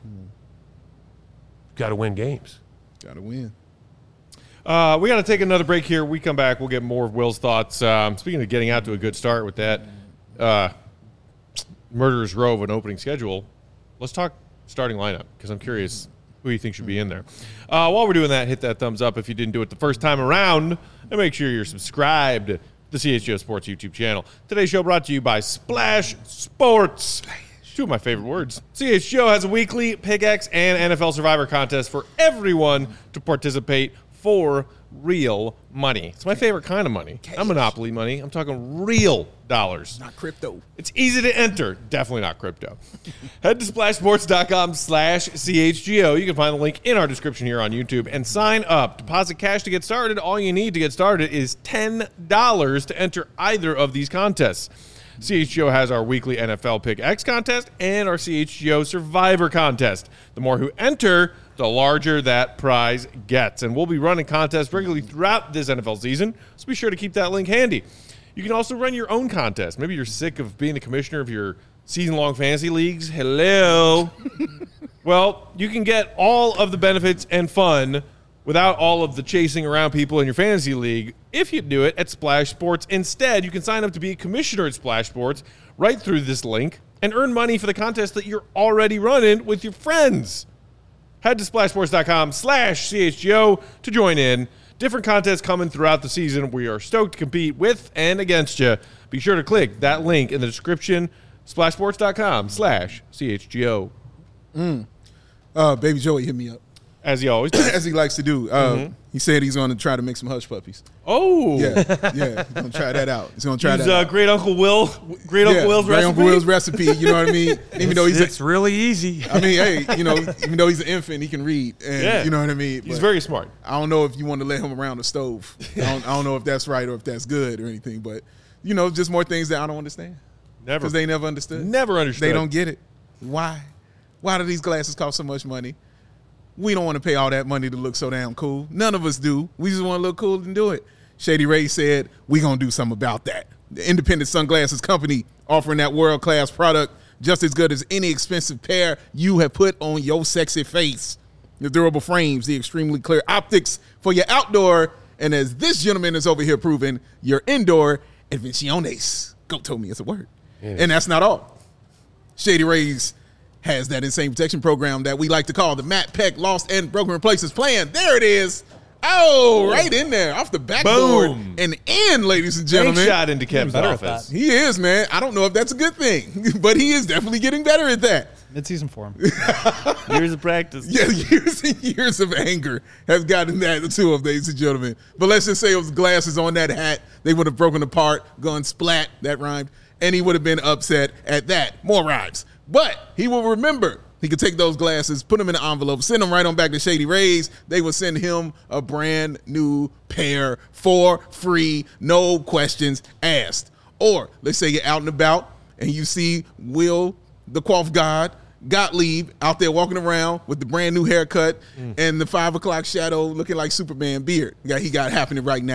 Got to win games. Got to win. We got to take another break here. We come back, we'll get more of Will's thoughts. Speaking of getting out to a good start with that Murderer's Row of an opening schedule, let's talk starting lineup because I'm curious who you think should be in there. While we're doing that, hit that thumbs up if you didn't do it the first time around, and make sure you're subscribed to the CHGO Sports YouTube channel. Today's show brought to you by Splash Sports. 2 of my favorite words. CHGO has a weekly Pick X and NFL Survivor contest for everyone to participate for real money. It's my favorite kind of money. Not Monopoly money. I'm talking real dollars. Not crypto. It's easy to enter. Definitely not crypto. Head to splashsports.com/CHGO. You can find the link in our description here on YouTube and sign up. Deposit cash to get started. All you need to get started is $10 to enter either of these contests. CHGO has our weekly NFL Pick X contest and our CHGO Survivor contest. The more who enter, the larger that prize gets. And we'll be running contests regularly throughout this NFL season, so be sure to keep that link handy. You can also run your own contest. Maybe you're sick of being the commissioner of your season-long fantasy leagues. Hello. Well, you can get all of the benefits and fun without all of the chasing around people in your fantasy league if you do it at Splash Sports. Instead, you can sign up to be a commissioner at Splash Sports right through this link and earn money for the contest that you're already running with your friends. Head to splashsports.com/CHGO to join in. Different contests coming throughout the season. We are stoked to compete with and against you. Be sure to click that link in the description, splashsports.com/CHGO. Baby Joey hit me up. As he always does. As he likes to do. He said he's going to try to make some hush puppies. Oh. Yeah. He's going to try that out. He's going to try Use, that out. Great Uncle Will's Great recipe. Uncle Will's recipe, you know what I mean? Even though It's really easy. I mean, hey, even though he's an infant, he can read. And you know what I mean? He's But very smart. I don't know if you want to let him around the stove. I don't know if that's right or if that's good or anything. But, just more things that I don't understand. Never. Because they never understood. Never understood. They don't get it. Why? Why do these glasses cost so much money? We don't want to pay all that money to look so damn cool. None of us do. We just want to look cool and do it. Shady Ray said, we going to do something about that. The independent sunglasses company offering that world-class product just as good as any expensive pair you have put on your sexy face. The durable frames, the extremely clear optics for your outdoor, and as this gentleman is over here proving, your indoor invenciones. Goat told me it's a word. Yes. And that's not all. Shady Rays has that insane protection program that we like to call the Matt Peck Lost and Broken Replaces Plan. There it is. Oh, right in there, off the backboard and in, ladies and gentlemen. Big shot into Kevin's better at office. that. He is, man. I don't know if that's a good thing, but he is definitely getting better at that. Mid-season form. Years of practice. Yeah, years and years of anger have gotten that to him, ladies and gentlemen. But let's just say it was glasses on that hat. They would have broken apart, gone splat, that rhymed, and he would have been upset at that. More rhymes. But he will remember. He could take those glasses, put them in an envelope, send them right on back to Shady Rays. They will send him a brand new pair for free, no questions asked. Or let's say you're out and about and you see Will, the Quaff God, Gottlieb out there walking around with the brand new haircut and the 5 o'clock shadow looking like Superman beard that he got happening right now.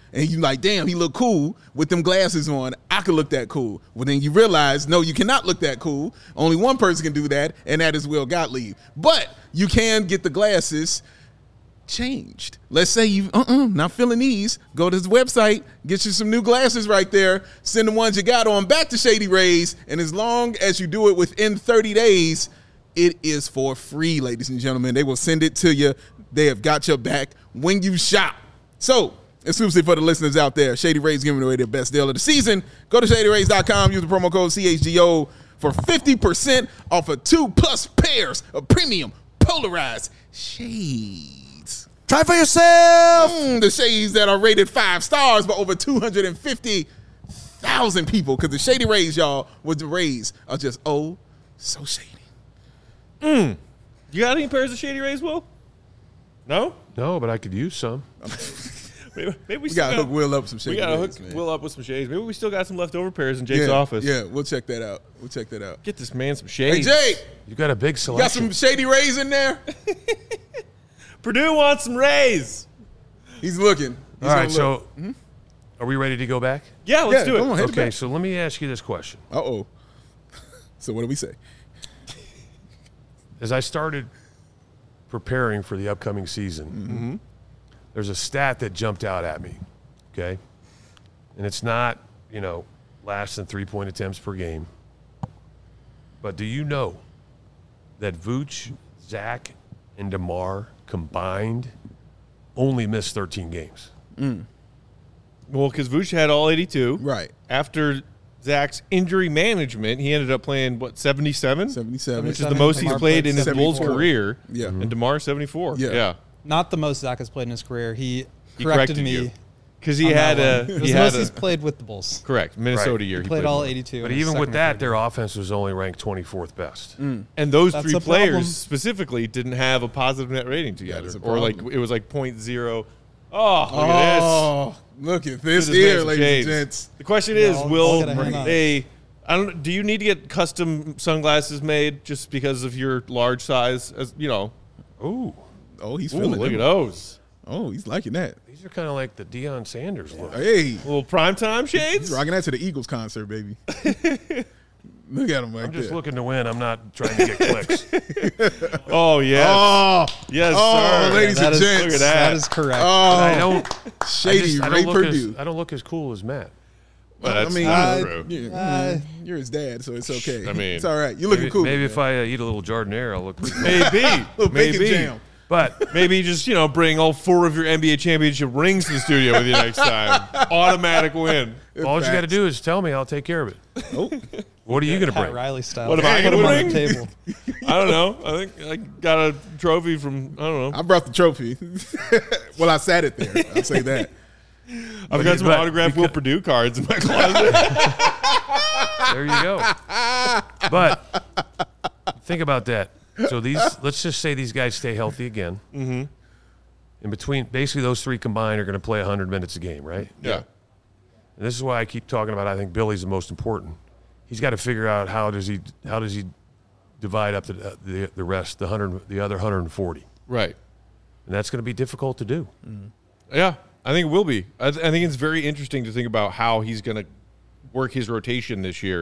and you like, damn, he look cool with them glasses on. I could look that cool. Well, then you realize, no, you cannot look that cool. Only one person can do that, and that is Will Gottlieb. But you can get the glasses changed. Let's say you not feeling these. Go to his website, get you some new glasses right there. Send the ones you got on back to Shady Rays, and as long as you do it within 30 days, it is for free, ladies and gentlemen. They will send it to you. They have got your back when you shop. So, exclusively for the listeners out there, Shady Rays giving away their best deal of the season. Go to ShadyRays.com, use the promo code CHGO for 50% off of 2+ pairs of premium polarized shades. Try for yourself. The shades that are rated 5 stars by over 250,000 people, because the Shady Rays, y'all, with the Rays are just so shady. You got any pairs of Shady Rays, Will? No? No, but I could use some. Maybe we We still got to hook Will up some Shady We got to Rays, hook man. Will up with some shades. Maybe we still got some leftover pairs in Jake's office. Yeah, we'll check that out. Get this man some Hey, shades. Jake, You got a big you selection. got some Shady Rays in there? Purdue wants some Rays. He's looking. He's All right, gonna look. so are we ready to go back? Yeah, let's do it. come on, hit it Okay, back. so let me ask you this question. Uh-oh. So what do we say? As I started preparing for the upcoming season, there's a stat that jumped out at me, okay? And it's not, less than 3-point attempts per game. But do you know that Vooch, Zach, and DeMar combined only missed 13 games? Well, because Vooch had all 82. Right. After Zach's injury management, he ended up playing, 77? 77. Which is the most he's DeMar played played in his Bulls 74. career. Yeah. And DeMar, 74. Yeah. Not the most Zach has played in his career. He He corrected corrected me. you. Because he on had that a. one. It was He the had most a he's played with the Bulls. correct. Minnesota Right. year. He played all more. 82. But in his even with second that, or their third offense was only ranked 24th best. And those That's three a problem. players specifically didn't have a positive net rating together. is a Or problem. it was like 0.0. Oh, look at Oh, look at this this. here, Some ladies shades. and gents. The question is, I'll will get a hand on they? I don't. Do you need to get custom sunglasses made just because of your large size? As you know, Ooh, Oh, he's ooh, feeling look them. at those Oh, he's liking that. these are kind of like the Deion Sanders look. Hey, little primetime he's shades. rocking that to the Eagles concert, baby. Look at him right I'm just there. looking to win. I'm not trying to get clicks. Oh yes, Oh, yes, oh, sir. ladies That and is- gents. Look at that. That is correct. I Oh, don't. shady I Ray don't look Purdue. I don't look as cool as Matt. Well, that's I mean, not true. you're his dad, so it's okay. I mean, it's all right. You're looking Maybe, cool. maybe man. if I eat a little Jardiniere, I'll look pretty cool. Maybe, Little bacon maybe. jam. But Maybe just bring all 4 of your NBA championship rings to the studio with you next time. Automatic win. all you got to do is tell me. I'll take care of it. Oh, What are you going to Pat bring? Riley style. What am I Put gonna him on bring? the table. I don't know. I think I got a trophy from I don't know. I brought the trophy. Well, I sat it there. I'll say that. I've got some but- autographed Will Purdue cards in my closet. There you go. But think about that. So let's just say these guys stay healthy again. Mm-hmm. In between, basically those 3 combined are going to play 100 minutes a game, right? Yeah. And this is why I keep talking about. I think Billy's the most important. He's got to figure out how does he divide up the rest, the other 140, Right. and that's going to be difficult to do. Yeah. I think it will be. I think it's very interesting to think about how he's going to work his rotation this year.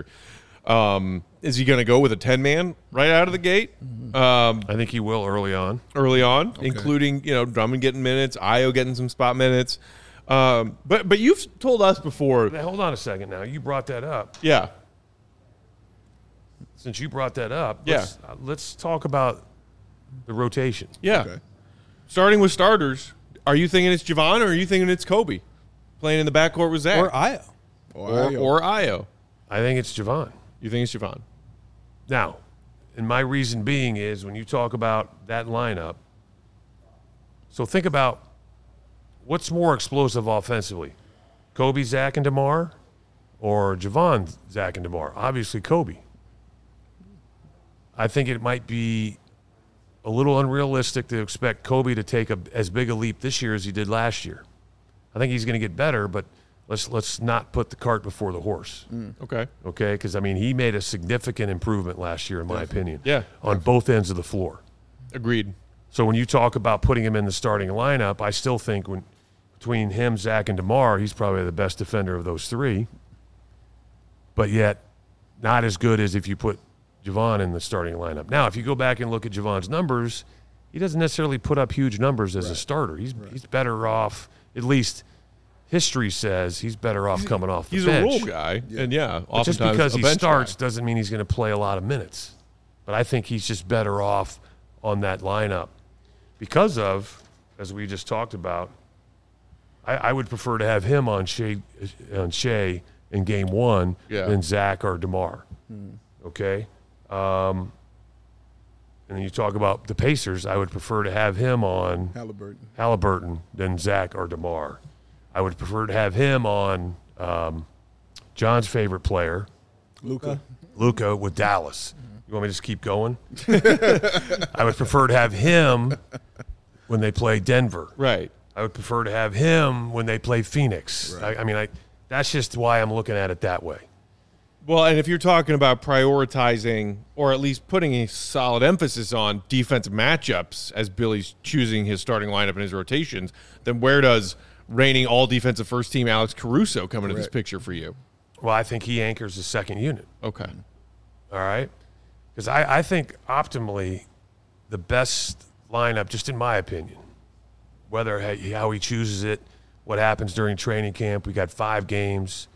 Is he going to go with a 10-man right out of the gate I think he will early on. including Drummond getting minutes, Io getting some spot minutes. But you've told us before. Now, hold on a second. Now you brought that up. Yeah. Since you brought that up, Yeah. let's talk about the rotation. Yeah. Okay. Starting with starters, are you thinking it's Javon or are you thinking it's Kobe playing in the backcourt with Zach? Or Io. Or Io? I think it's Javon. You think it's Javon? Now, and my reason being is when you talk about that lineup, so think about what's more explosive offensively, Kobe, Zach, and DeMar, or Javon, Zach, and DeMar? Obviously, Kobe. I think it might be a little unrealistic to expect Kobe to take as big a leap this year as he did last year. I think he's going to get better, but let's not put the cart before the horse. Okay. Okay, because I mean he made a significant improvement last year, in my opinion. Yeah. on both ends of the floor. Agreed. So when you talk about putting him in the starting lineup, I still think when between him, Zach, and DeMar, he's probably the best defender of those three. But yet, not as good as if you put Javon in the starting lineup. Now, if you go back and look at Javon's numbers, he doesn't necessarily put up huge numbers as a starter. He's better off, at least history says, he's better off coming off the He's bench. a role guy, and But oftentimes just because a he bench starts guy. doesn't mean he's going to play a lot of minutes. But I think he's just better off on that lineup because of, as we just talked about, I would prefer to have him on Shea in game one than Zach or DeMar. Okay? And then you talk about the Pacers, I would prefer to have him on Halliburton than Zach or DeMar. I would prefer to have him on John's favorite player, Luka with Dallas. You want me to just keep going? I would prefer to have him when they play Denver. Right. I would prefer to have him when they play Phoenix. Right. I mean, that's just why I'm looking at it that way. Well, and if you're talking about prioritizing or at least putting a solid emphasis on defensive matchups as Billy's choosing his starting lineup and his rotations, then where does reigning all defensive first team Alex Caruso come into this picture for you? Well, I think he anchors the second unit. Okay. All right? Because I think optimally the best lineup, just in my opinion, whether how he chooses it, what happens during training camp, we got 5 games,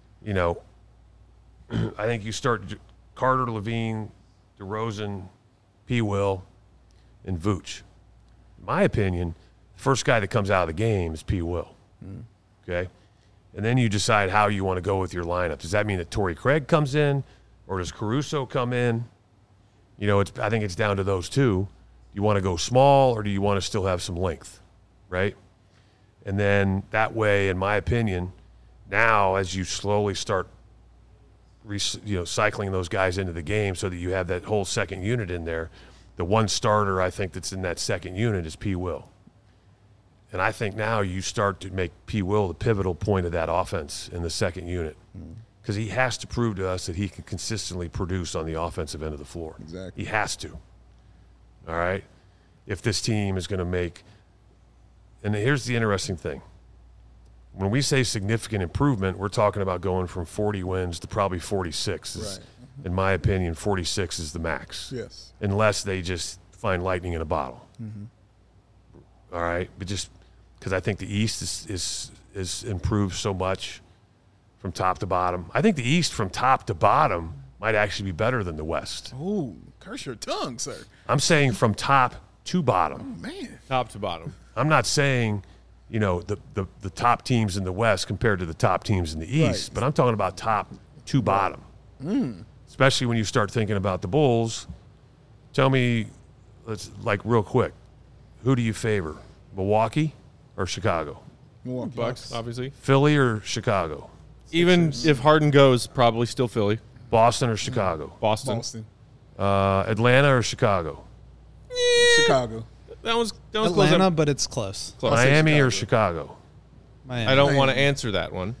I think you start Carter, Levine, DeRozan, P. Will, and Vooch. In my opinion, the first guy that comes out of the game is P. Will. Okay? And then you decide how you want to go with your lineup. Does that mean that Torrey Craig comes in, or does Caruso come in? I think it's down to those two. Do you want to go small, or do you want to still have some length, right? And then that way, in my opinion, now as you slowly start cycling those guys into the game so that you have that whole second unit in there, the one starter I think that's in that second unit is P. Will. And I think now you start to make P. Will the pivotal point of that offense in the second unit because he has to prove to us that he can consistently produce on the offensive end of the floor. Exactly. He has to. All right? If this team is going to make – and here's the interesting thing. When we say significant improvement, we're talking about going from 40 wins to probably 46. Right. In my opinion, 46 is the max. Yes. Unless they just find lightning in a bottle. All right? But just because I think the East is improved so much from top to bottom. I think the East from top to bottom might actually be better than the West. Oh, curse your tongue, sir. I'm saying from top to bottom. Man. Top to bottom. I'm not saying, the top teams in the West compared to the top teams in the East, Right. but I'm talking about top to bottom. Especially when you start thinking about the Bulls. Tell me, real quick, who do you favor, Milwaukee or Chicago? Milwaukee Bucks, obviously. Philly or Chicago? Even if Harden goes, probably still Philly. Boston or Chicago? Boston. Atlanta or Chicago? Chicago. That was close. Atlanta, but it's close. Close. Miami or Chicago? Miami. I don't want to answer that one.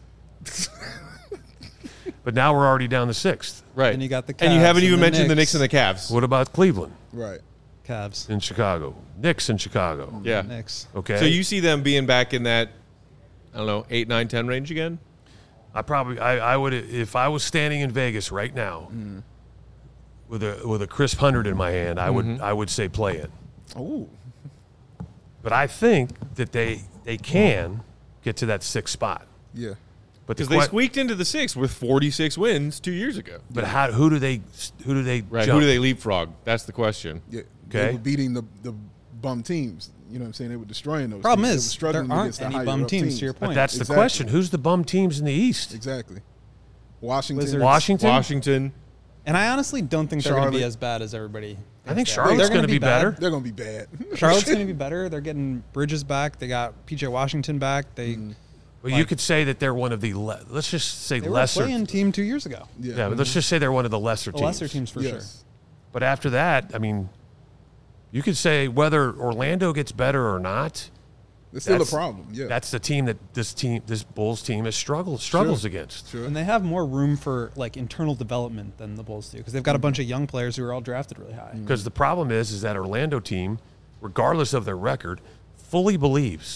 But now we're already down to 6th. Right. And you got the And you Cavs haven't and even the mentioned the Knicks. Knicks and the Cavs. What about Cleveland Right. Cavs. in Chicago? Knicks in Chicago. Yeah. Knicks. Okay. So you see them being back in that, 8, 9, 10 range again? I would, if I was standing in Vegas right now with a crisp 100 in my hand, I would say play it. Oh. But I think that they can get to that 6th spot. Yeah. But Because they squeaked into the 6 with 46 wins 2 years ago. But who do they Right. jump? Who do they leapfrog? That's the question. Yeah. Okay. They were beating the bum teams. You know what I'm saying? They were destroying those Problem teams. They were is, struggling there aren't against the any higher bum up teams, to your But point. that's the Exactly. question. Who's the bum teams in the East? Exactly. Washington. Wizards. Washington? And I honestly don't think they're going to be Charlotte. as bad as everybody. I think thinks they are. Charlotte's They're going to be better. They're going to be bad. Charlotte's going to be better. They're getting Bridges back. They got PJ Washington back. They Well, you could say that they're one of the let's just say they were a lesser. playing team 2 years ago. Yeah, but let's just say they're one of the lesser The teams. lesser teams for sure. Yes. But after that, I mean, you could say whether Orlando gets better or not. It's still a That's- problem. Yeah. That's the team that this Bulls team has struggles against. Sure. And they have more room for internal development than the Bulls do because they've got a bunch of young players who are all drafted really high. Because the problem is that Orlando team, regardless of their record, fully believes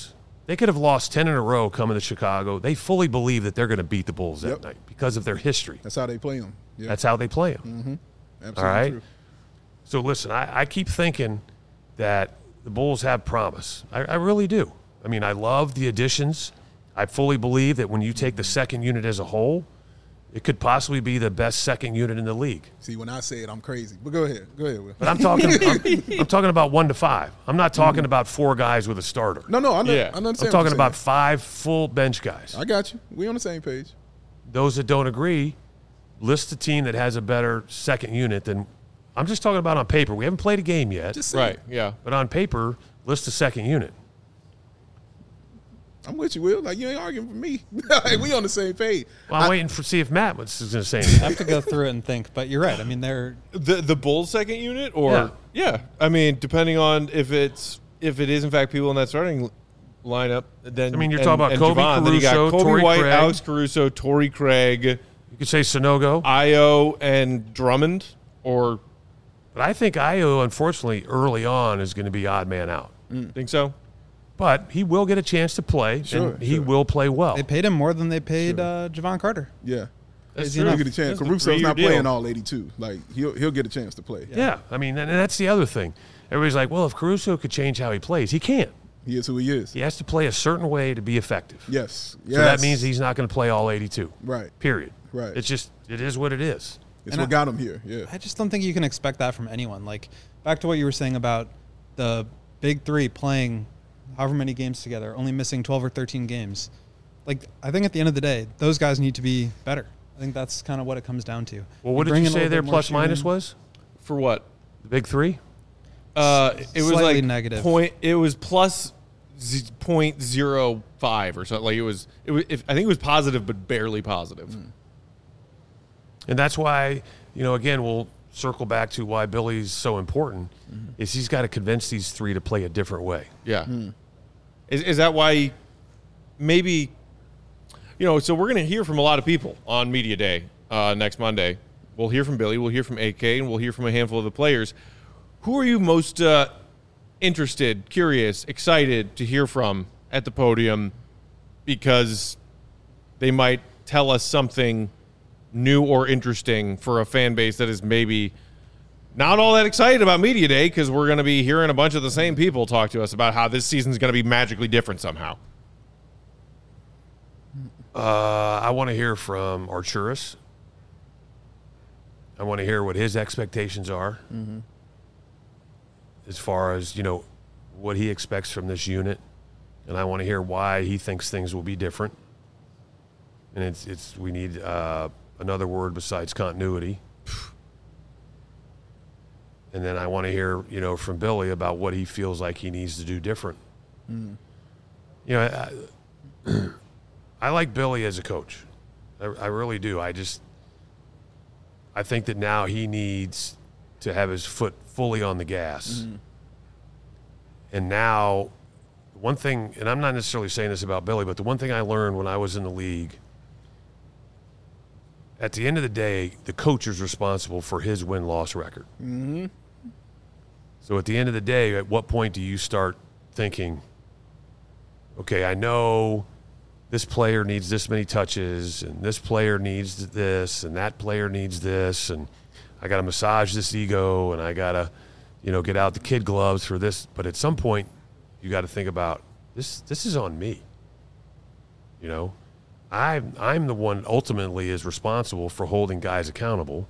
They could have lost 10 in a row coming to Chicago. They fully believe that they're going to beat the Bulls that night because of their history. That's how they play them. Yeah. That's how they play them. Mm-hmm. Absolutely All right? true. So, listen, I keep thinking that the Bulls have promise. I really do. I mean, I love the additions. I fully believe that when you take the second unit as a whole, it could possibly be the best second unit in the league. See, when I say it, I'm crazy. But go ahead. Go ahead, Will. But I'm talking I'm talking about 1 to 5. I'm not talking about 4 guys with a starter. No, I know. Yeah. I understand. I'm talking about 5 full bench guys. I got you. We on the same page. Those that don't agree, list a team that has a better second unit than – I'm just talking about on paper. We haven't played a game yet. Just say Right, it. yeah. But on paper, list a second unit. I'm with you, Will. Like, you ain't arguing for me. Like, we on the same page. Well, I'm waiting to see if Matt was going to say anything. I have to go through it and think, but you're right. I mean, they're The Bulls second unit, or yeah. I mean, depending on if it is in fact people in that starting lineup, then I mean, you're talking about Kobe Javon, then you got Caruso, Kobe Torrey White, Craig. Alex Caruso, Torrey Craig, You could say Sonogo. Io, and Drummond, or But I think Io, unfortunately, early on is going to be odd man out. think so. But he will get a chance to play, and he will play well. they paid him more than they paid Javon Carter. Yeah. That's Crazy true. He'll enough. get a chance. That's a Caruso's 3-year not deal. playing all 82. Like, he'll get a chance to play. Yeah, I mean, and that's the other thing. Everybody's like, well, if Caruso could change how he plays, he can't. He is who he is. He has to play a certain way to be effective. Yes. So that means he's not going to play all 82. Right. Period. Right. It's just, it is what it is. It's And what got him here. Yeah. I just don't think you can expect that from anyone. Like, back to what you were saying about the big three playing however many games together, only missing 12 or 13 games. Like, I think at the end of the day, those guys need to be better. I think that's kind of what it comes down to. Well, what did bring you in a say little their bit more plus minus shooting. was? For what? The big three? It was Slightly like negative. It was plus 0.05 or something. Like it was. I think it was positive, but barely positive. And that's why, again, we'll circle back to why Billy's so important, is he's got to convince these three to play a different way. Yeah. Is that why? Maybe. So we're going to hear from a lot of people on Media Day next Monday. We'll hear from Billy. We'll hear from AK, and we'll hear from a handful of the players. Who are you most interested, curious, excited to hear from at the podium because they might tell us something new or interesting for a fan base that is maybe not all that excited about Media Day, because we're going to be hearing a bunch of the same people talk to us about how this season is going to be magically different somehow. I want to hear from Arturas. I want to hear what his expectations are as far as, what he expects from this unit. And I want to hear why he thinks things will be different. And we need another word besides continuity. And then I want to hear, from Billy about what he feels like he needs to do different. I like Billy as a coach. I really do. I think that now he needs to have his foot fully on the gas. And now, one thing, and I'm not necessarily saying this about Billy, but the one thing I learned when I was in the league, at the end of the day, the coach is responsible for his win-loss record. So at the end of the day, at what point do you start thinking, okay, I know this player needs this many touches, and this player needs this, and that player needs this, and I got to massage this ego, and I got to, get out the kid gloves for this. But at some point, you got to think about this. This is on me. I'm the one ultimately is responsible for holding guys accountable.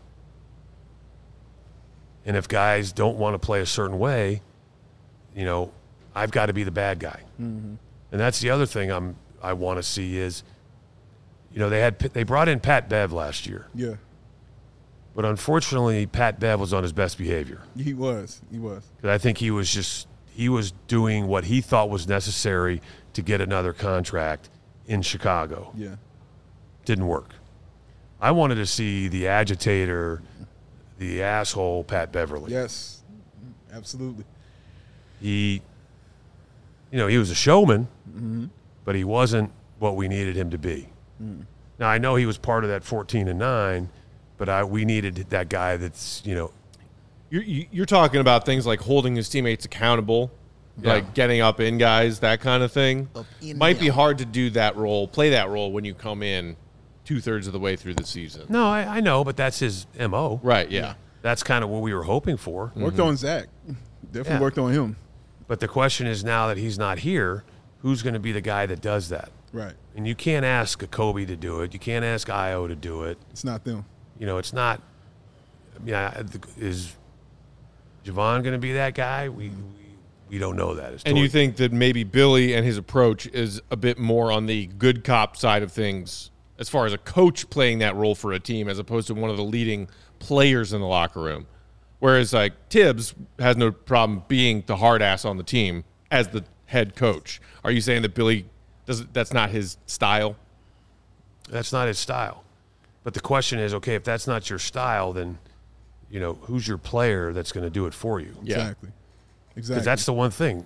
And if guys don't want to play a certain way, I've got to be the bad guy. And that's the other thing I want to see is, they brought in Pat Bev last year. Yeah. But unfortunately, Pat Bev was on his best behavior. He was. 'Cause I think he was doing what he thought was necessary to get another contract in Chicago. Yeah. Didn't work. I wanted to see the agitator, the asshole Pat Beverly. Yes. Absolutely. He was a showman, but he wasn't what we needed him to be. Now, I know he was part of that 14-9, but we needed that guy that's, You're talking about things like holding his teammates accountable, like getting up in guys, that kind of thing. Might be hard to do that role, play that role when you come in 2/3 of the way through the season. No, I know, but that's his MO. Right, yeah. That's kind of what we were hoping for. Worked on Zach. Definitely worked on him. But the question is now that he's not here, who's going to be the guy that does that? Right. And you can't ask a Kobe to do it. You can't ask Io to do it. It's not them. It's not. I mean, is Javon going to be that guy? We don't know that. And you think that maybe Billy and his approach is a bit more on the good cop side of things as far as a coach playing that role for a team as opposed to one of the leading players in the locker room. Whereas, like, Tibbs has no problem being the hard ass on the team as the head coach. Are you saying that Billy that's not his style? That's not his style. But the question is, okay, if that's not your style, then, who's your player that's going to do it for you? Yeah. Exactly. Because that's the one thing.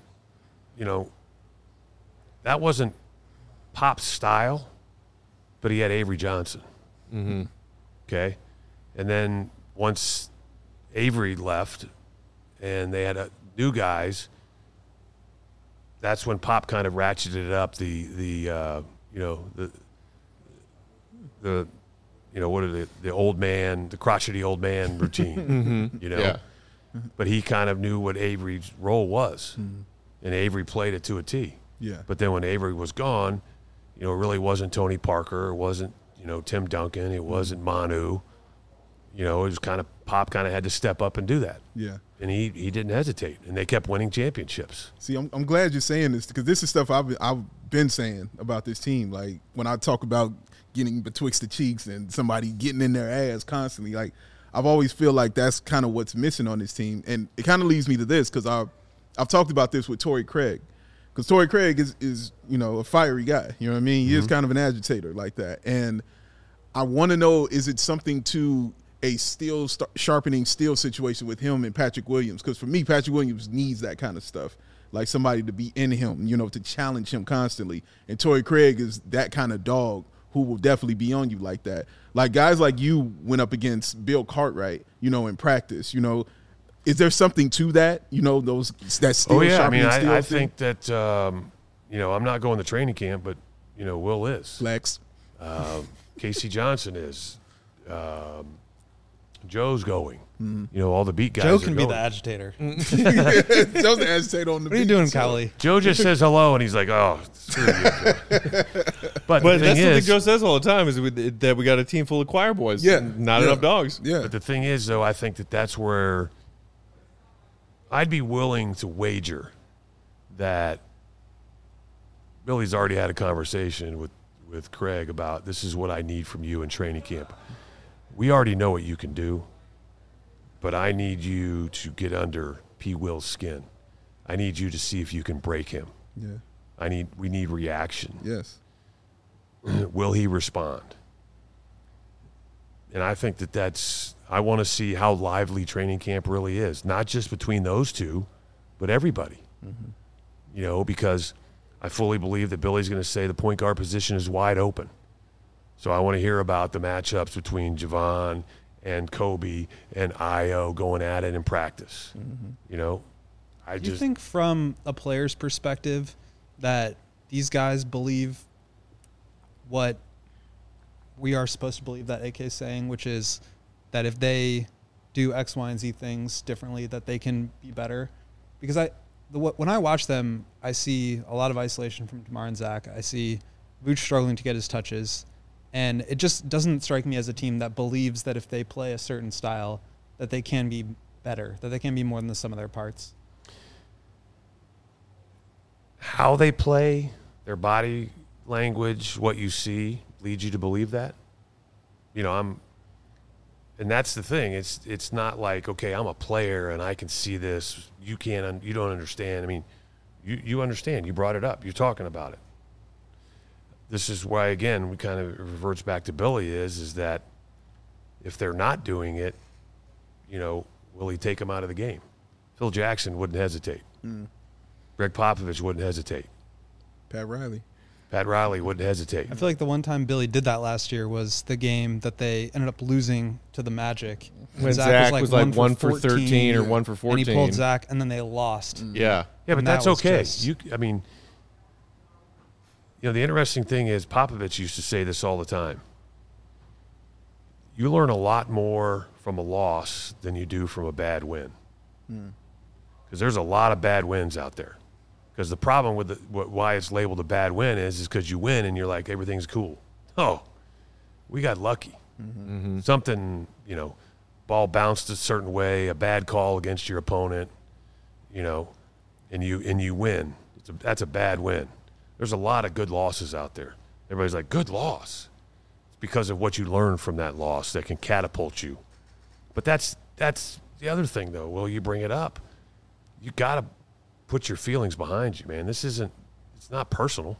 That wasn't Pop's style, but he had Avery Johnson. Mm-hmm. Okay? And then once Avery left and they had new guys, that's when Pop kind of ratcheted up the old man, the crotchety old man routine, Yeah. But he kind of knew what Avery's role was, and Avery played it to a T. Yeah. But then when Avery was gone, it really wasn't Tony Parker, it wasn't Tim Duncan, it wasn't Manu. It was kind of Pop kind of had to step up and do that. Yeah. And he didn't hesitate, and they kept winning championships. See, I'm glad you're saying this because this is stuff I've been saying about this team. Like when I talk about getting betwixt the cheeks and somebody getting in their ass constantly, like I've always feel like that's kind of what's missing on this team. And it kind of leads me to this because I've talked about this with Torrey Craig because Torrey Craig is a fiery guy. You know what I mean? He is kind of an agitator like that. And I want to know, is it something to a sharpening steel situation with him and Patrick Williams? Because for me, Patrick Williams needs that kind of stuff, like somebody to be in him, to challenge him constantly. And Torrey Craig is that kind of dog who will definitely be on you like that. Like guys like you went up against Bill Cartwright, in practice. Is there something to that? That steel. Oh yeah, I mean, steel I thing? think that I'm not going to training camp, but Will is. Flex. Casey Johnson is. Joe's going. All the beat guys. Joe are can be going. the agitator. Joe's the agitator on the What are you beat, doing, so- Cowley? Joe just says hello, and he's like, "Oh, screw you." But the But thing that's something is, Joe says all the time is that we got a team full of choir boys. Yeah. And not Yeah. enough dogs. Yeah. But the thing is, though, I think that that's where I'd be willing to wager that Billy's already had a conversation with Craig about this is what I need from you in training camp. We already know what you can do, but I need you to get under P. Will's skin. I need you to see if you can break him. Yeah. We need reaction. Yes. Will he respond? And I think I want to see how lively training camp really is, not just between those two, but everybody. Because I fully believe that Billy's going to say the point guard position is wide open. So I want to hear about the matchups between Javon and Kobe and Io going at it in practice. Do you just think from a player's perspective that these guys believe what we are supposed to believe that AK is saying, which is that if they do X, Y, and Z things differently, that they can be better? Because when I watch them, I see a lot of isolation from DeMar and Zach. I see Vooch struggling to get his touches. And it just doesn't strike me as a team that believes that if they play a certain style, that they can be better, that they can be more than the sum of their parts. how they play, their body language, what you see leads you to believe that. And that's the thing. It's not like, okay, I'm a player and I can see this. You don't understand. I mean, you understand. You brought it up. You're talking about it. This is why, again, we kind of reverts back to Billy is that if they're not doing it, will he take them out of the game? Phil Jackson wouldn't hesitate. Greg Popovich wouldn't hesitate. Pat Riley. Pat Riley wouldn't hesitate. I feel like the one time Billy did that last year was the game that they ended up losing to the Magic. When Zach was like 1 for 13 or 1 for 14. And he pulled Zach, and then they lost. Yeah. Yeah, but And that's that was okay. just- The interesting thing is Popovich used to say this all the time. You learn a lot more from a loss than you do from a bad win. Because there's a lot of bad wins out there. Because the problem with why it's labeled a bad win is because you win and you're like, everything's cool. Oh, we got lucky. Something, ball bounced a certain way, a bad call against your opponent, and you win. That's a bad win. There's a lot of good losses out there. Everybody's like, good loss. It's because of what you learn from that loss that can catapult you. But that's the other thing, though. Well, you bring it up. You got to put your feelings behind you, man. It's not personal.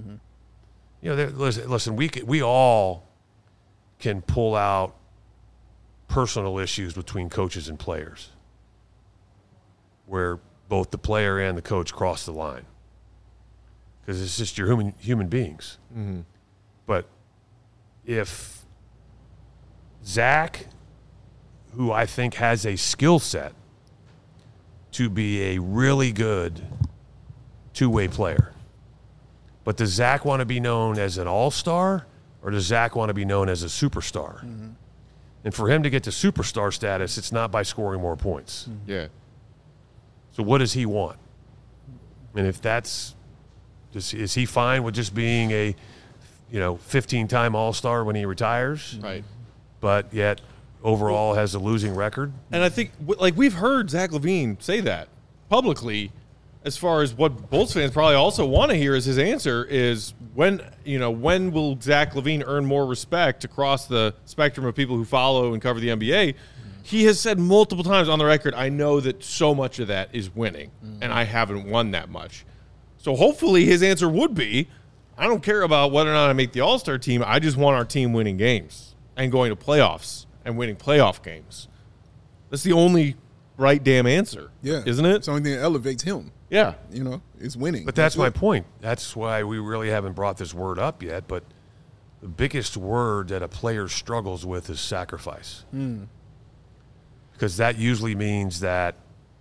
Listen, we all can pull out personal issues between coaches and players where both the player and the coach cross the line because it's just your human beings. But if Zach, who I think has a skill set to be a really good two-way player, but does Zach want to be known as an all-star or does Zach want to be known as a superstar? And for him to get to superstar status, it's not by scoring more points. Yeah. So what does he want? And if is he fine with just being a 15-time all-star when he retires? Right. But yet overall has a losing record? And I think, we've heard Zach LaVine say that publicly. As far as what Bulls fans probably also want to hear is his answer is when will Zach LaVine earn more respect across the spectrum of people who follow and cover the NBA? He has said multiple times on the record, I know that so much of that is winning, and I haven't won that much. So hopefully his answer would be, I don't care about whether or not I make the All-Star team. I just want our team winning games and going to playoffs and winning playoff games. That's the only right damn answer, isn't it? It's the only thing that elevates him. Yeah. It's winning. But that's my point. That's why we really haven't brought this word up yet. But the biggest word that a player struggles with is sacrifice. Because that usually means that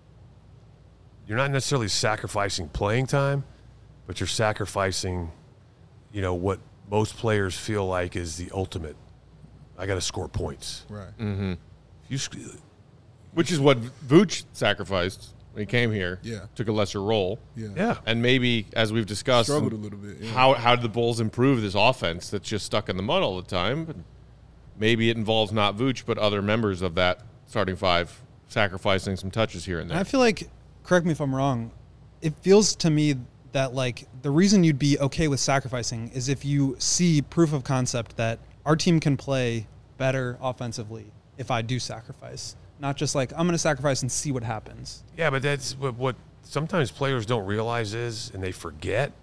you're not necessarily sacrificing playing time, but you're sacrificing, what most players feel like is the ultimate. I got to score points. Right. Which is what Vooch sacrificed when he came here. Yeah. Took a lesser role. Yeah. And maybe, as we've discussed, Struggled a little bit. Yeah. how did the Bulls improve this offense that's just stuck in the mud all the time? But maybe it involves not Vooch, but other members of that starting five sacrificing some touches here and there. I feel like, correct me if I'm wrong, it feels to me that the reason you'd be okay with sacrificing is if you see proof of concept that our team can play better offensively if I do sacrifice. Not just I'm going to sacrifice and see what happens. Yeah, but that's what sometimes players don't realize and they forget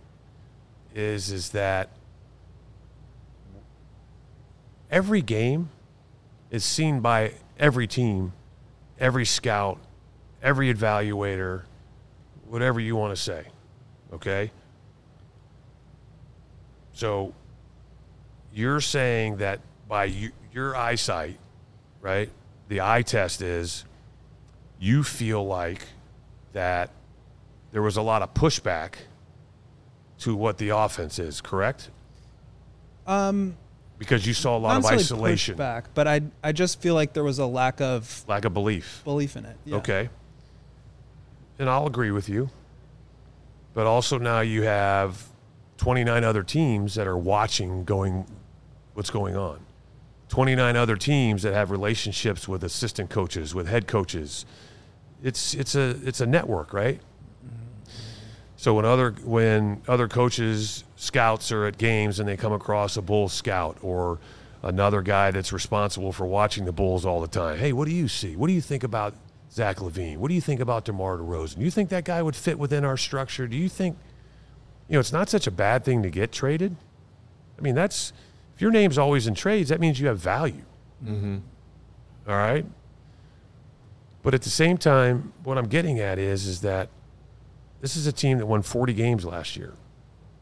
is that every game is seen by every team, every scout, every evaluator, whatever you want to say, okay? So you're saying that by your eyesight, right, the eye test is you feel like that there was a lot of pushback to what the offense is, correct? Because you saw a lot of isolation. Pushback, but I just feel like there was a lack of belief in it. Yeah. Okay. And I'll agree with you. But also now you have 29 other teams that are watching what's going on. 29 other teams that have relationships with assistant coaches, with head coaches. It's a network, right? So when other coaches, scouts are at games and they come across a Bulls scout or another guy that's responsible for watching the Bulls all the time, hey, what do you see? What do you think about Zach LaVine? What do you think about DeMar DeRozan? Do you think that guy would fit within our structure? Do you think, it's not such a bad thing to get traded? I mean, if your name's always in trades, that means you have value. All right? But at the same time, what I'm getting at is that this is a team that won 40 games last year.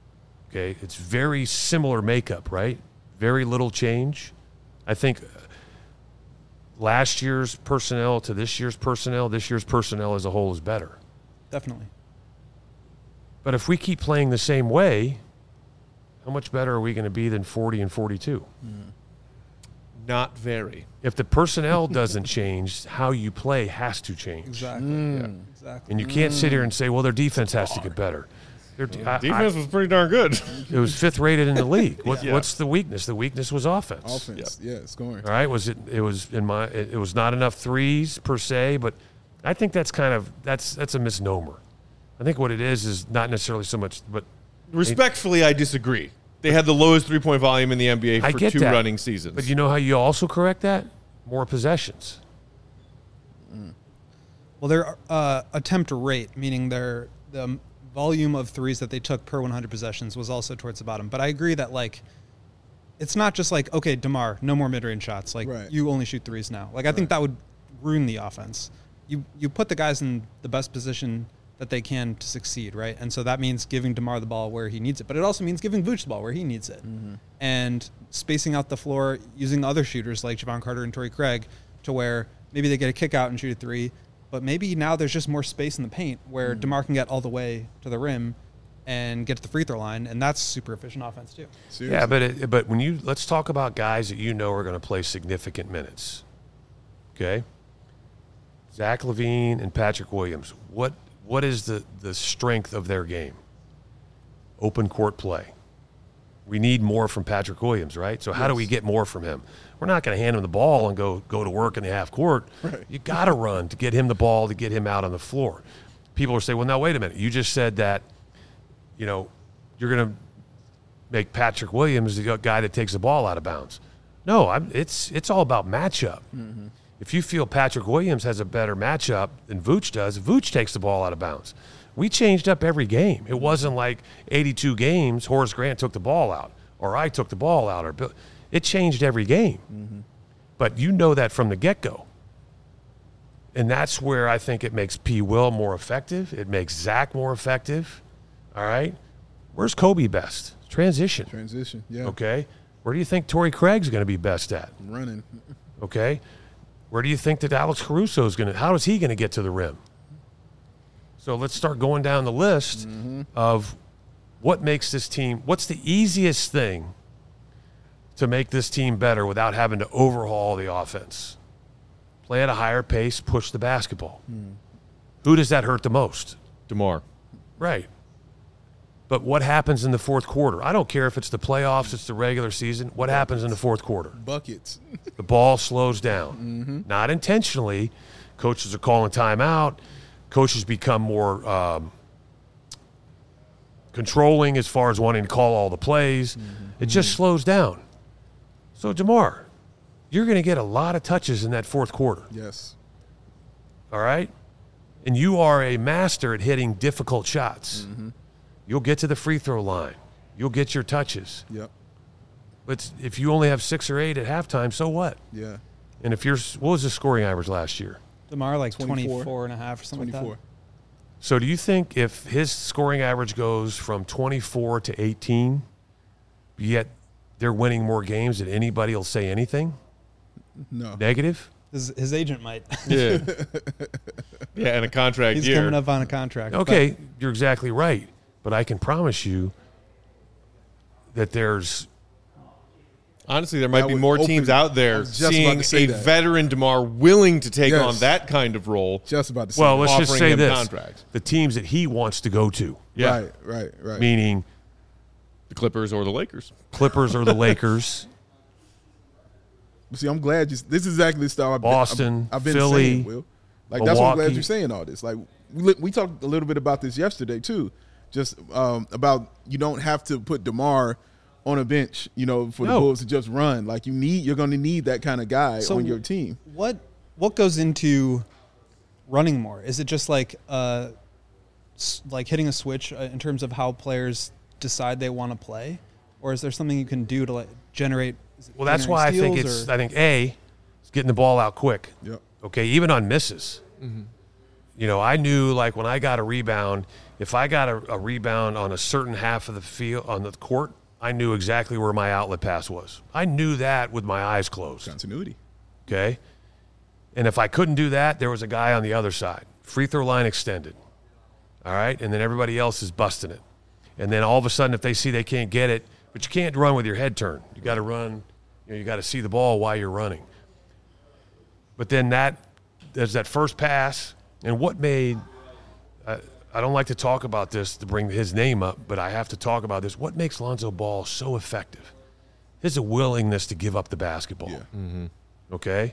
Okay, it's very similar makeup, right? Very little change. I think last year's personnel to this year's personnel as a whole is better. Definitely. But if we keep playing the same way, how much better are we going to be than 40 and 42? Not very. If the personnel doesn't change, how you play has to change. Exactly. Exactly. And you can't sit here and say, well, their defense has to get better. Their Defense was pretty darn good. It was 5th rated in the league. What's the weakness? The weakness was offense. Offense, scoring. All right, it was not enough threes per se, but I think that's that's a misnomer. I think what it is not necessarily so much, but Respectfully, I disagree. They had the lowest 3-point volume in the NBA I for get 2 that. running seasons. But you know how you also correct that? More possessions. Well, their attempt rate, meaning the volume of threes that they took per 100 possessions, was also towards the bottom. But I agree that, like, it's not just like, okay, DeMar, no more mid-range shots. Like, you only shoot threes now. Like, I think that would ruin the offense. You put the guys in the best position that they can to succeed, right? And so that means giving DeMar the ball where he needs it. But it also means giving Vooch the ball where he needs it. And spacing out the floor, using other shooters like Javon Carter and Torrey Craig to where maybe they get a kick out and shoot a 3, but maybe now there's just more space in the paint where DeMar can get all the way to the rim and get to the free throw line, and that's super efficient offense too. Seriously. Yeah, but when let's talk about guys that you know are going to play significant minutes. Okay? Zach LaVine and Patrick Williams. What is the strength of their game? Open court play. We need more from Patrick Williams, right? So how do we get more from him? We're not going to hand him the ball and go to work in the half court. Right. You got to run to get him the ball, to get him out on the floor. People are saying, well, now, wait a minute. You just said that, you're going to make Patrick Williams the guy that takes the ball out of bounds. No, it's all about matchup. Mm-hmm. If you feel Patrick Williams has a better matchup than Vooch does, Vooch takes the ball out of bounds. We changed up every game. It wasn't like 82 games, Horace Grant took the ball out, or I took the ball out, or Bill. It changed every game. Mm-hmm. But you know that from the get-go. And that's where I think it makes P. Will more effective. It makes Zach more effective. All right? Where's Kobe best? Transition. Transition, yeah. Okay? Where do you think Torrey Craig's going to be best at? Running. Okay? Where do you think that Alex Caruso is going to – how is he going to get to the rim? So let's start going down the list of what makes this team – what's the easiest thing to make this team better without having to overhaul the offense? Play at a higher pace, push the basketball. Who does that hurt the most? DeMar. Right. But what happens in the fourth quarter? I don't care if it's the playoffs, it's the regular season. What happens in the fourth quarter? Buckets. The ball slows down. Not intentionally. Coaches are calling timeout. Coaches become more controlling as far as wanting to call all the plays. It just slows down. So, DeMar, you're going to get a lot of touches in that fourth quarter. Yes. All right? And you are a master at hitting difficult shots. You'll get to the free throw line. You'll get your touches. Yep. But if you only have 6 or 8 at halftime, so what? Yeah. And if what was the scoring average last year? DeMar, like 24. 24 and a half or something 24. like that. So do you think if his scoring average goes from 24 to 18, yet they're winning more games than anybody will say anything? No. Negative? His agent might. Yeah. Yeah, and a contract He's year. coming up on a contract. Okay, you're exactly right. But I can promise you that there's Honestly, there might That be would more open- teams out I there was just about seeing to say a that. veteran DeMar willing to take Yes. on that kind of role. Just about to say well, that. let's just offering say him this: contracts. the teams that he wants to go to, Yeah, Right. meaning the Clippers or the Lakers. Clippers or the Lakers, See, I'm glad this is exactly the style Boston, I've been Philly, saying, Will. Like, that's why I'm glad Milwaukee. you're saying all this. Like, we talked a little bit about this yesterday, too. Just about you don't have to put DeMar on a bench, for the No. Bulls to just run. Like, you're going to need that kind of guy So on your team. What goes into running more? Is it just like hitting a switch in terms of how players decide they want to play, or is there something you can do to like generate? well, that's why I think steals, I think A, is getting the ball out quick. Yep. Okay, even on misses. I knew like when I got a rebound, If I got a rebound on a certain half of the field on the court, I knew exactly where my outlet pass was. I knew that with my eyes closed. Continuity. Okay? And if I couldn't do that, there was a guy on the other side. Free throw line extended. All right? And then everybody else is busting it. And then all of a sudden, if they see they can't get it, but you can't run with your head turned. You got to run, you got to see the ball while you're running. But then there's that first pass. And what made I don't like to talk about this to bring his name up, but I have to talk about this. What makes Lonzo Ball so effective? His willingness to give up the basketball. Yeah. Mm-hmm. Okay?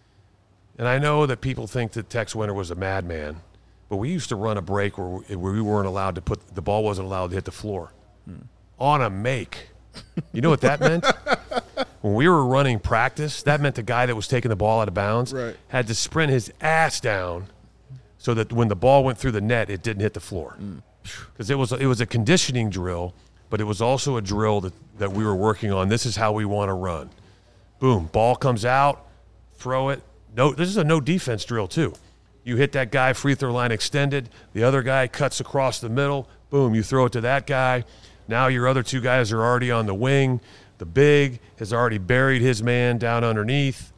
And I know that people think that Tex Winter was a madman, but we used to run a break where we weren't allowed to the ball wasn't allowed to hit the floor. On a make. You know what that meant? When we were running practice, that meant the guy that was taking the ball out of bounds had to sprint his ass down so that when the ball went through the net, it didn't hit the floor. Because it was a conditioning drill, but it was also a drill that we were working on. This is how we want to run. Boom, ball comes out, throw it. No, this is a no defense drill too. You hit that guy, free throw line extended. The other guy cuts across the middle. Boom, you throw it to that guy. Now your other two guys are already on the wing. The big has already buried his man down underneath.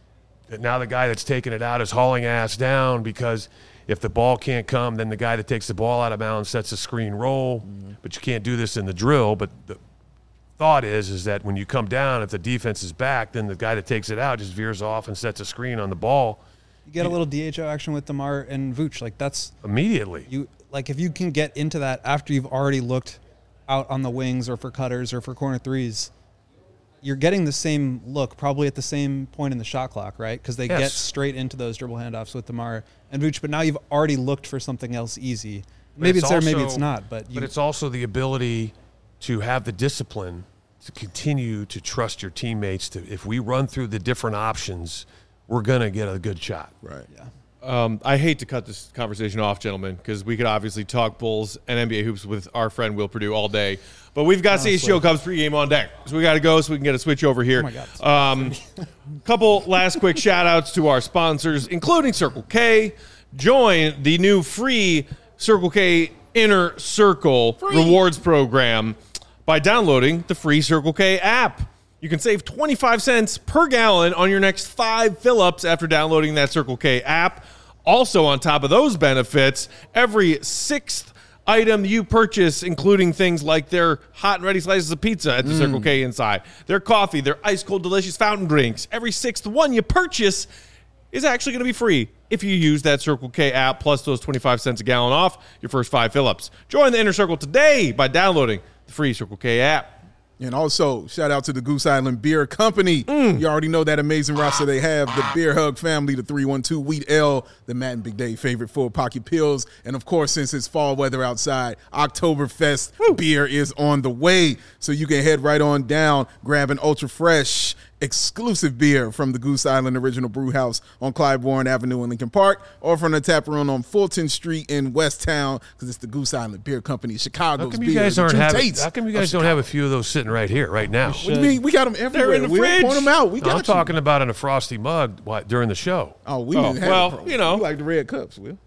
Now the guy that's taking it out is hauling ass down because if the ball can't come, then the guy that takes the ball out of bounds sets a screen roll. But you can't do this in the drill. But the thought is that when you come down, if the defense is back, then the guy that takes it out just veers off and sets a screen on the ball. You get a little DHO action with DeMar and Vooch. Like that's immediately. If you can get into that after you've already looked out on the wings or for cutters or for corner threes, you're getting the same look probably at the same point in the shot clock, right? Because they get straight into those dribble handoffs with DeMar and Vooch, but now you've already looked for something else easy. Maybe it's there, maybe it's not. But it's also the ability to have the discipline to continue to trust your teammates. If we run through the different options, we're going to get a good shot. Right. Yeah. I hate to cut this conversation off, gentlemen, because we could obviously talk Bulls and NBA hoops with our friend Will Perdue all day. But we've got CHGO Cubs pregame on deck. So we got to go so we can get a switch over here. Oh, my God. Couple last quick shout-outs to our sponsors, including Circle K. Join the new free Circle K Inner Circle rewards program by downloading the free Circle K app. You can save 25 cents per gallon on your next 5 fill-ups after downloading that Circle K app. Also, on top of those benefits, every 6th item you purchase, including things like their hot and ready slices of pizza at the Circle K inside, their coffee, their ice-cold delicious fountain drinks, every 6th one you purchase is actually going to be free if you use that Circle K app, plus those 25 cents a gallon off your first 5 fill-ups. Join the Inner Circle today by downloading the free Circle K app. And also, shout out to the Goose Island Beer Company. You already know that amazing roster they have. The Beer Hug family, the 312 Wheat Ale, the Matt and Big Dave favorite full pocket pills. And, of course, since it's fall weather outside, Oktoberfest beer is on the way. So you can head right on down, grab an ultra fresh, exclusive beer from the Goose Island Original Brew House on Clybourne Avenue in Lincoln Park, or from the tap room on Fulton Street in West Town, because it's the Goose Island Beer Company, Chicago's How come beer. you guys How come you guys don't have a few of those sitting right here, right now? What do you mean? We got them everywhere. They're in the fridge. Point them out. We got I'm you. talking about in a frosty mug during the show. Oh, we didn't have well, it, bro. you know. We like the red cups, Will.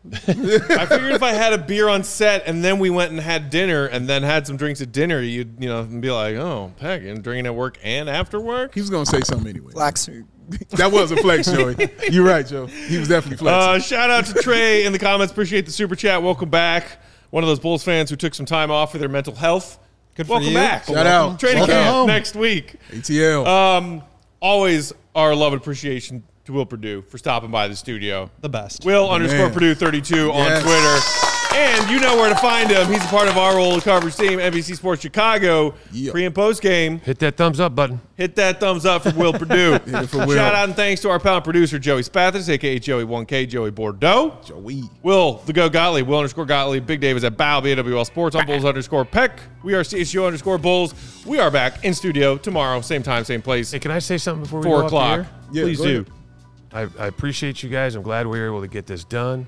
I figured if I had a beer on set and then we went and had dinner and then had some drinks at dinner, you'd be like, oh, Peck, and drinking at work and after work? He was going to say something anyway. Flex. That was a flex, Joey. You're right, Joe. He was definitely flexing. Shout out to Trey in the comments. Appreciate the super chat. Welcome back. One of those Bulls fans who took some time off for their mental health. Good for Welcome you. back. Shout out. Training Welcome camp home. next week. ATL. Always our love and appreciation to Will Perdue for stopping by the studio. The best. Will_Perdue32 on Yes. Twitter. And you know where to find him. He's a part of our roll coverage team, NBC Sports Chicago. Yeah. Pre and post game. Hit that thumbs up button. Hit that thumbs up for Will Perdue. Hit it for Will. Shout out and thanks to our pal and producer, Joey Spathis, a.k.a. Joey1K, Joey Bordeaux. Joey. Will, the Go Gottlieb, Will_Gottlieb. Big Dave is at Bow, BAWL Sports, on Bulls_Peck. We are CHGO_Bulls. We are back in studio tomorrow, same time, same place, Hey, can I say something before we 4 go off the o'clock. air? Yeah, Please go do. ahead. I appreciate you guys. I'm glad we were able to get this done.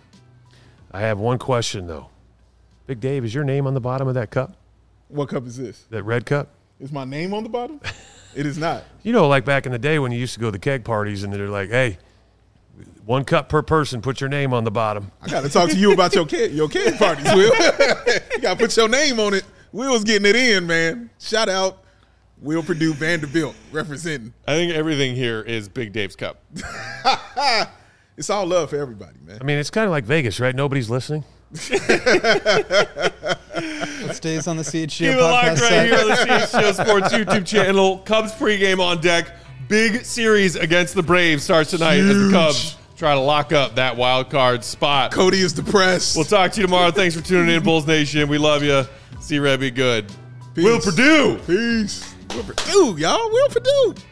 I have one question, though. Big Dave, is your name on the bottom of that cup? What cup is this? That red cup? Is my name on the bottom? It is not. You know, like back in the day when you used to go to the keg parties and they're like, hey, 1 cup per person. Put your name on the bottom. I got to talk to you about your keg parties, Will. You got to put your name on it. Will's getting it in, man. Shout out Will Purdue Vanderbilt representing. I think everything here is Big Dave's Cup. It's all love for everybody, man. I mean, it's kind of like Vegas, right? Nobody's listening. It stays on the CHGO Keep it podcast locked right site. here on the CHGO Sports YouTube channel. Cubs pregame on deck. Big series against the Braves starts tonight as the Cubs try to lock up that wild card spot. Cody is depressed. We'll talk to you tomorrow. Thanks for tuning in, Bulls Nation. We love you. See Red be good. Peace. Will Purdue. Peace. Will Purdue, y'all. Will Purdue.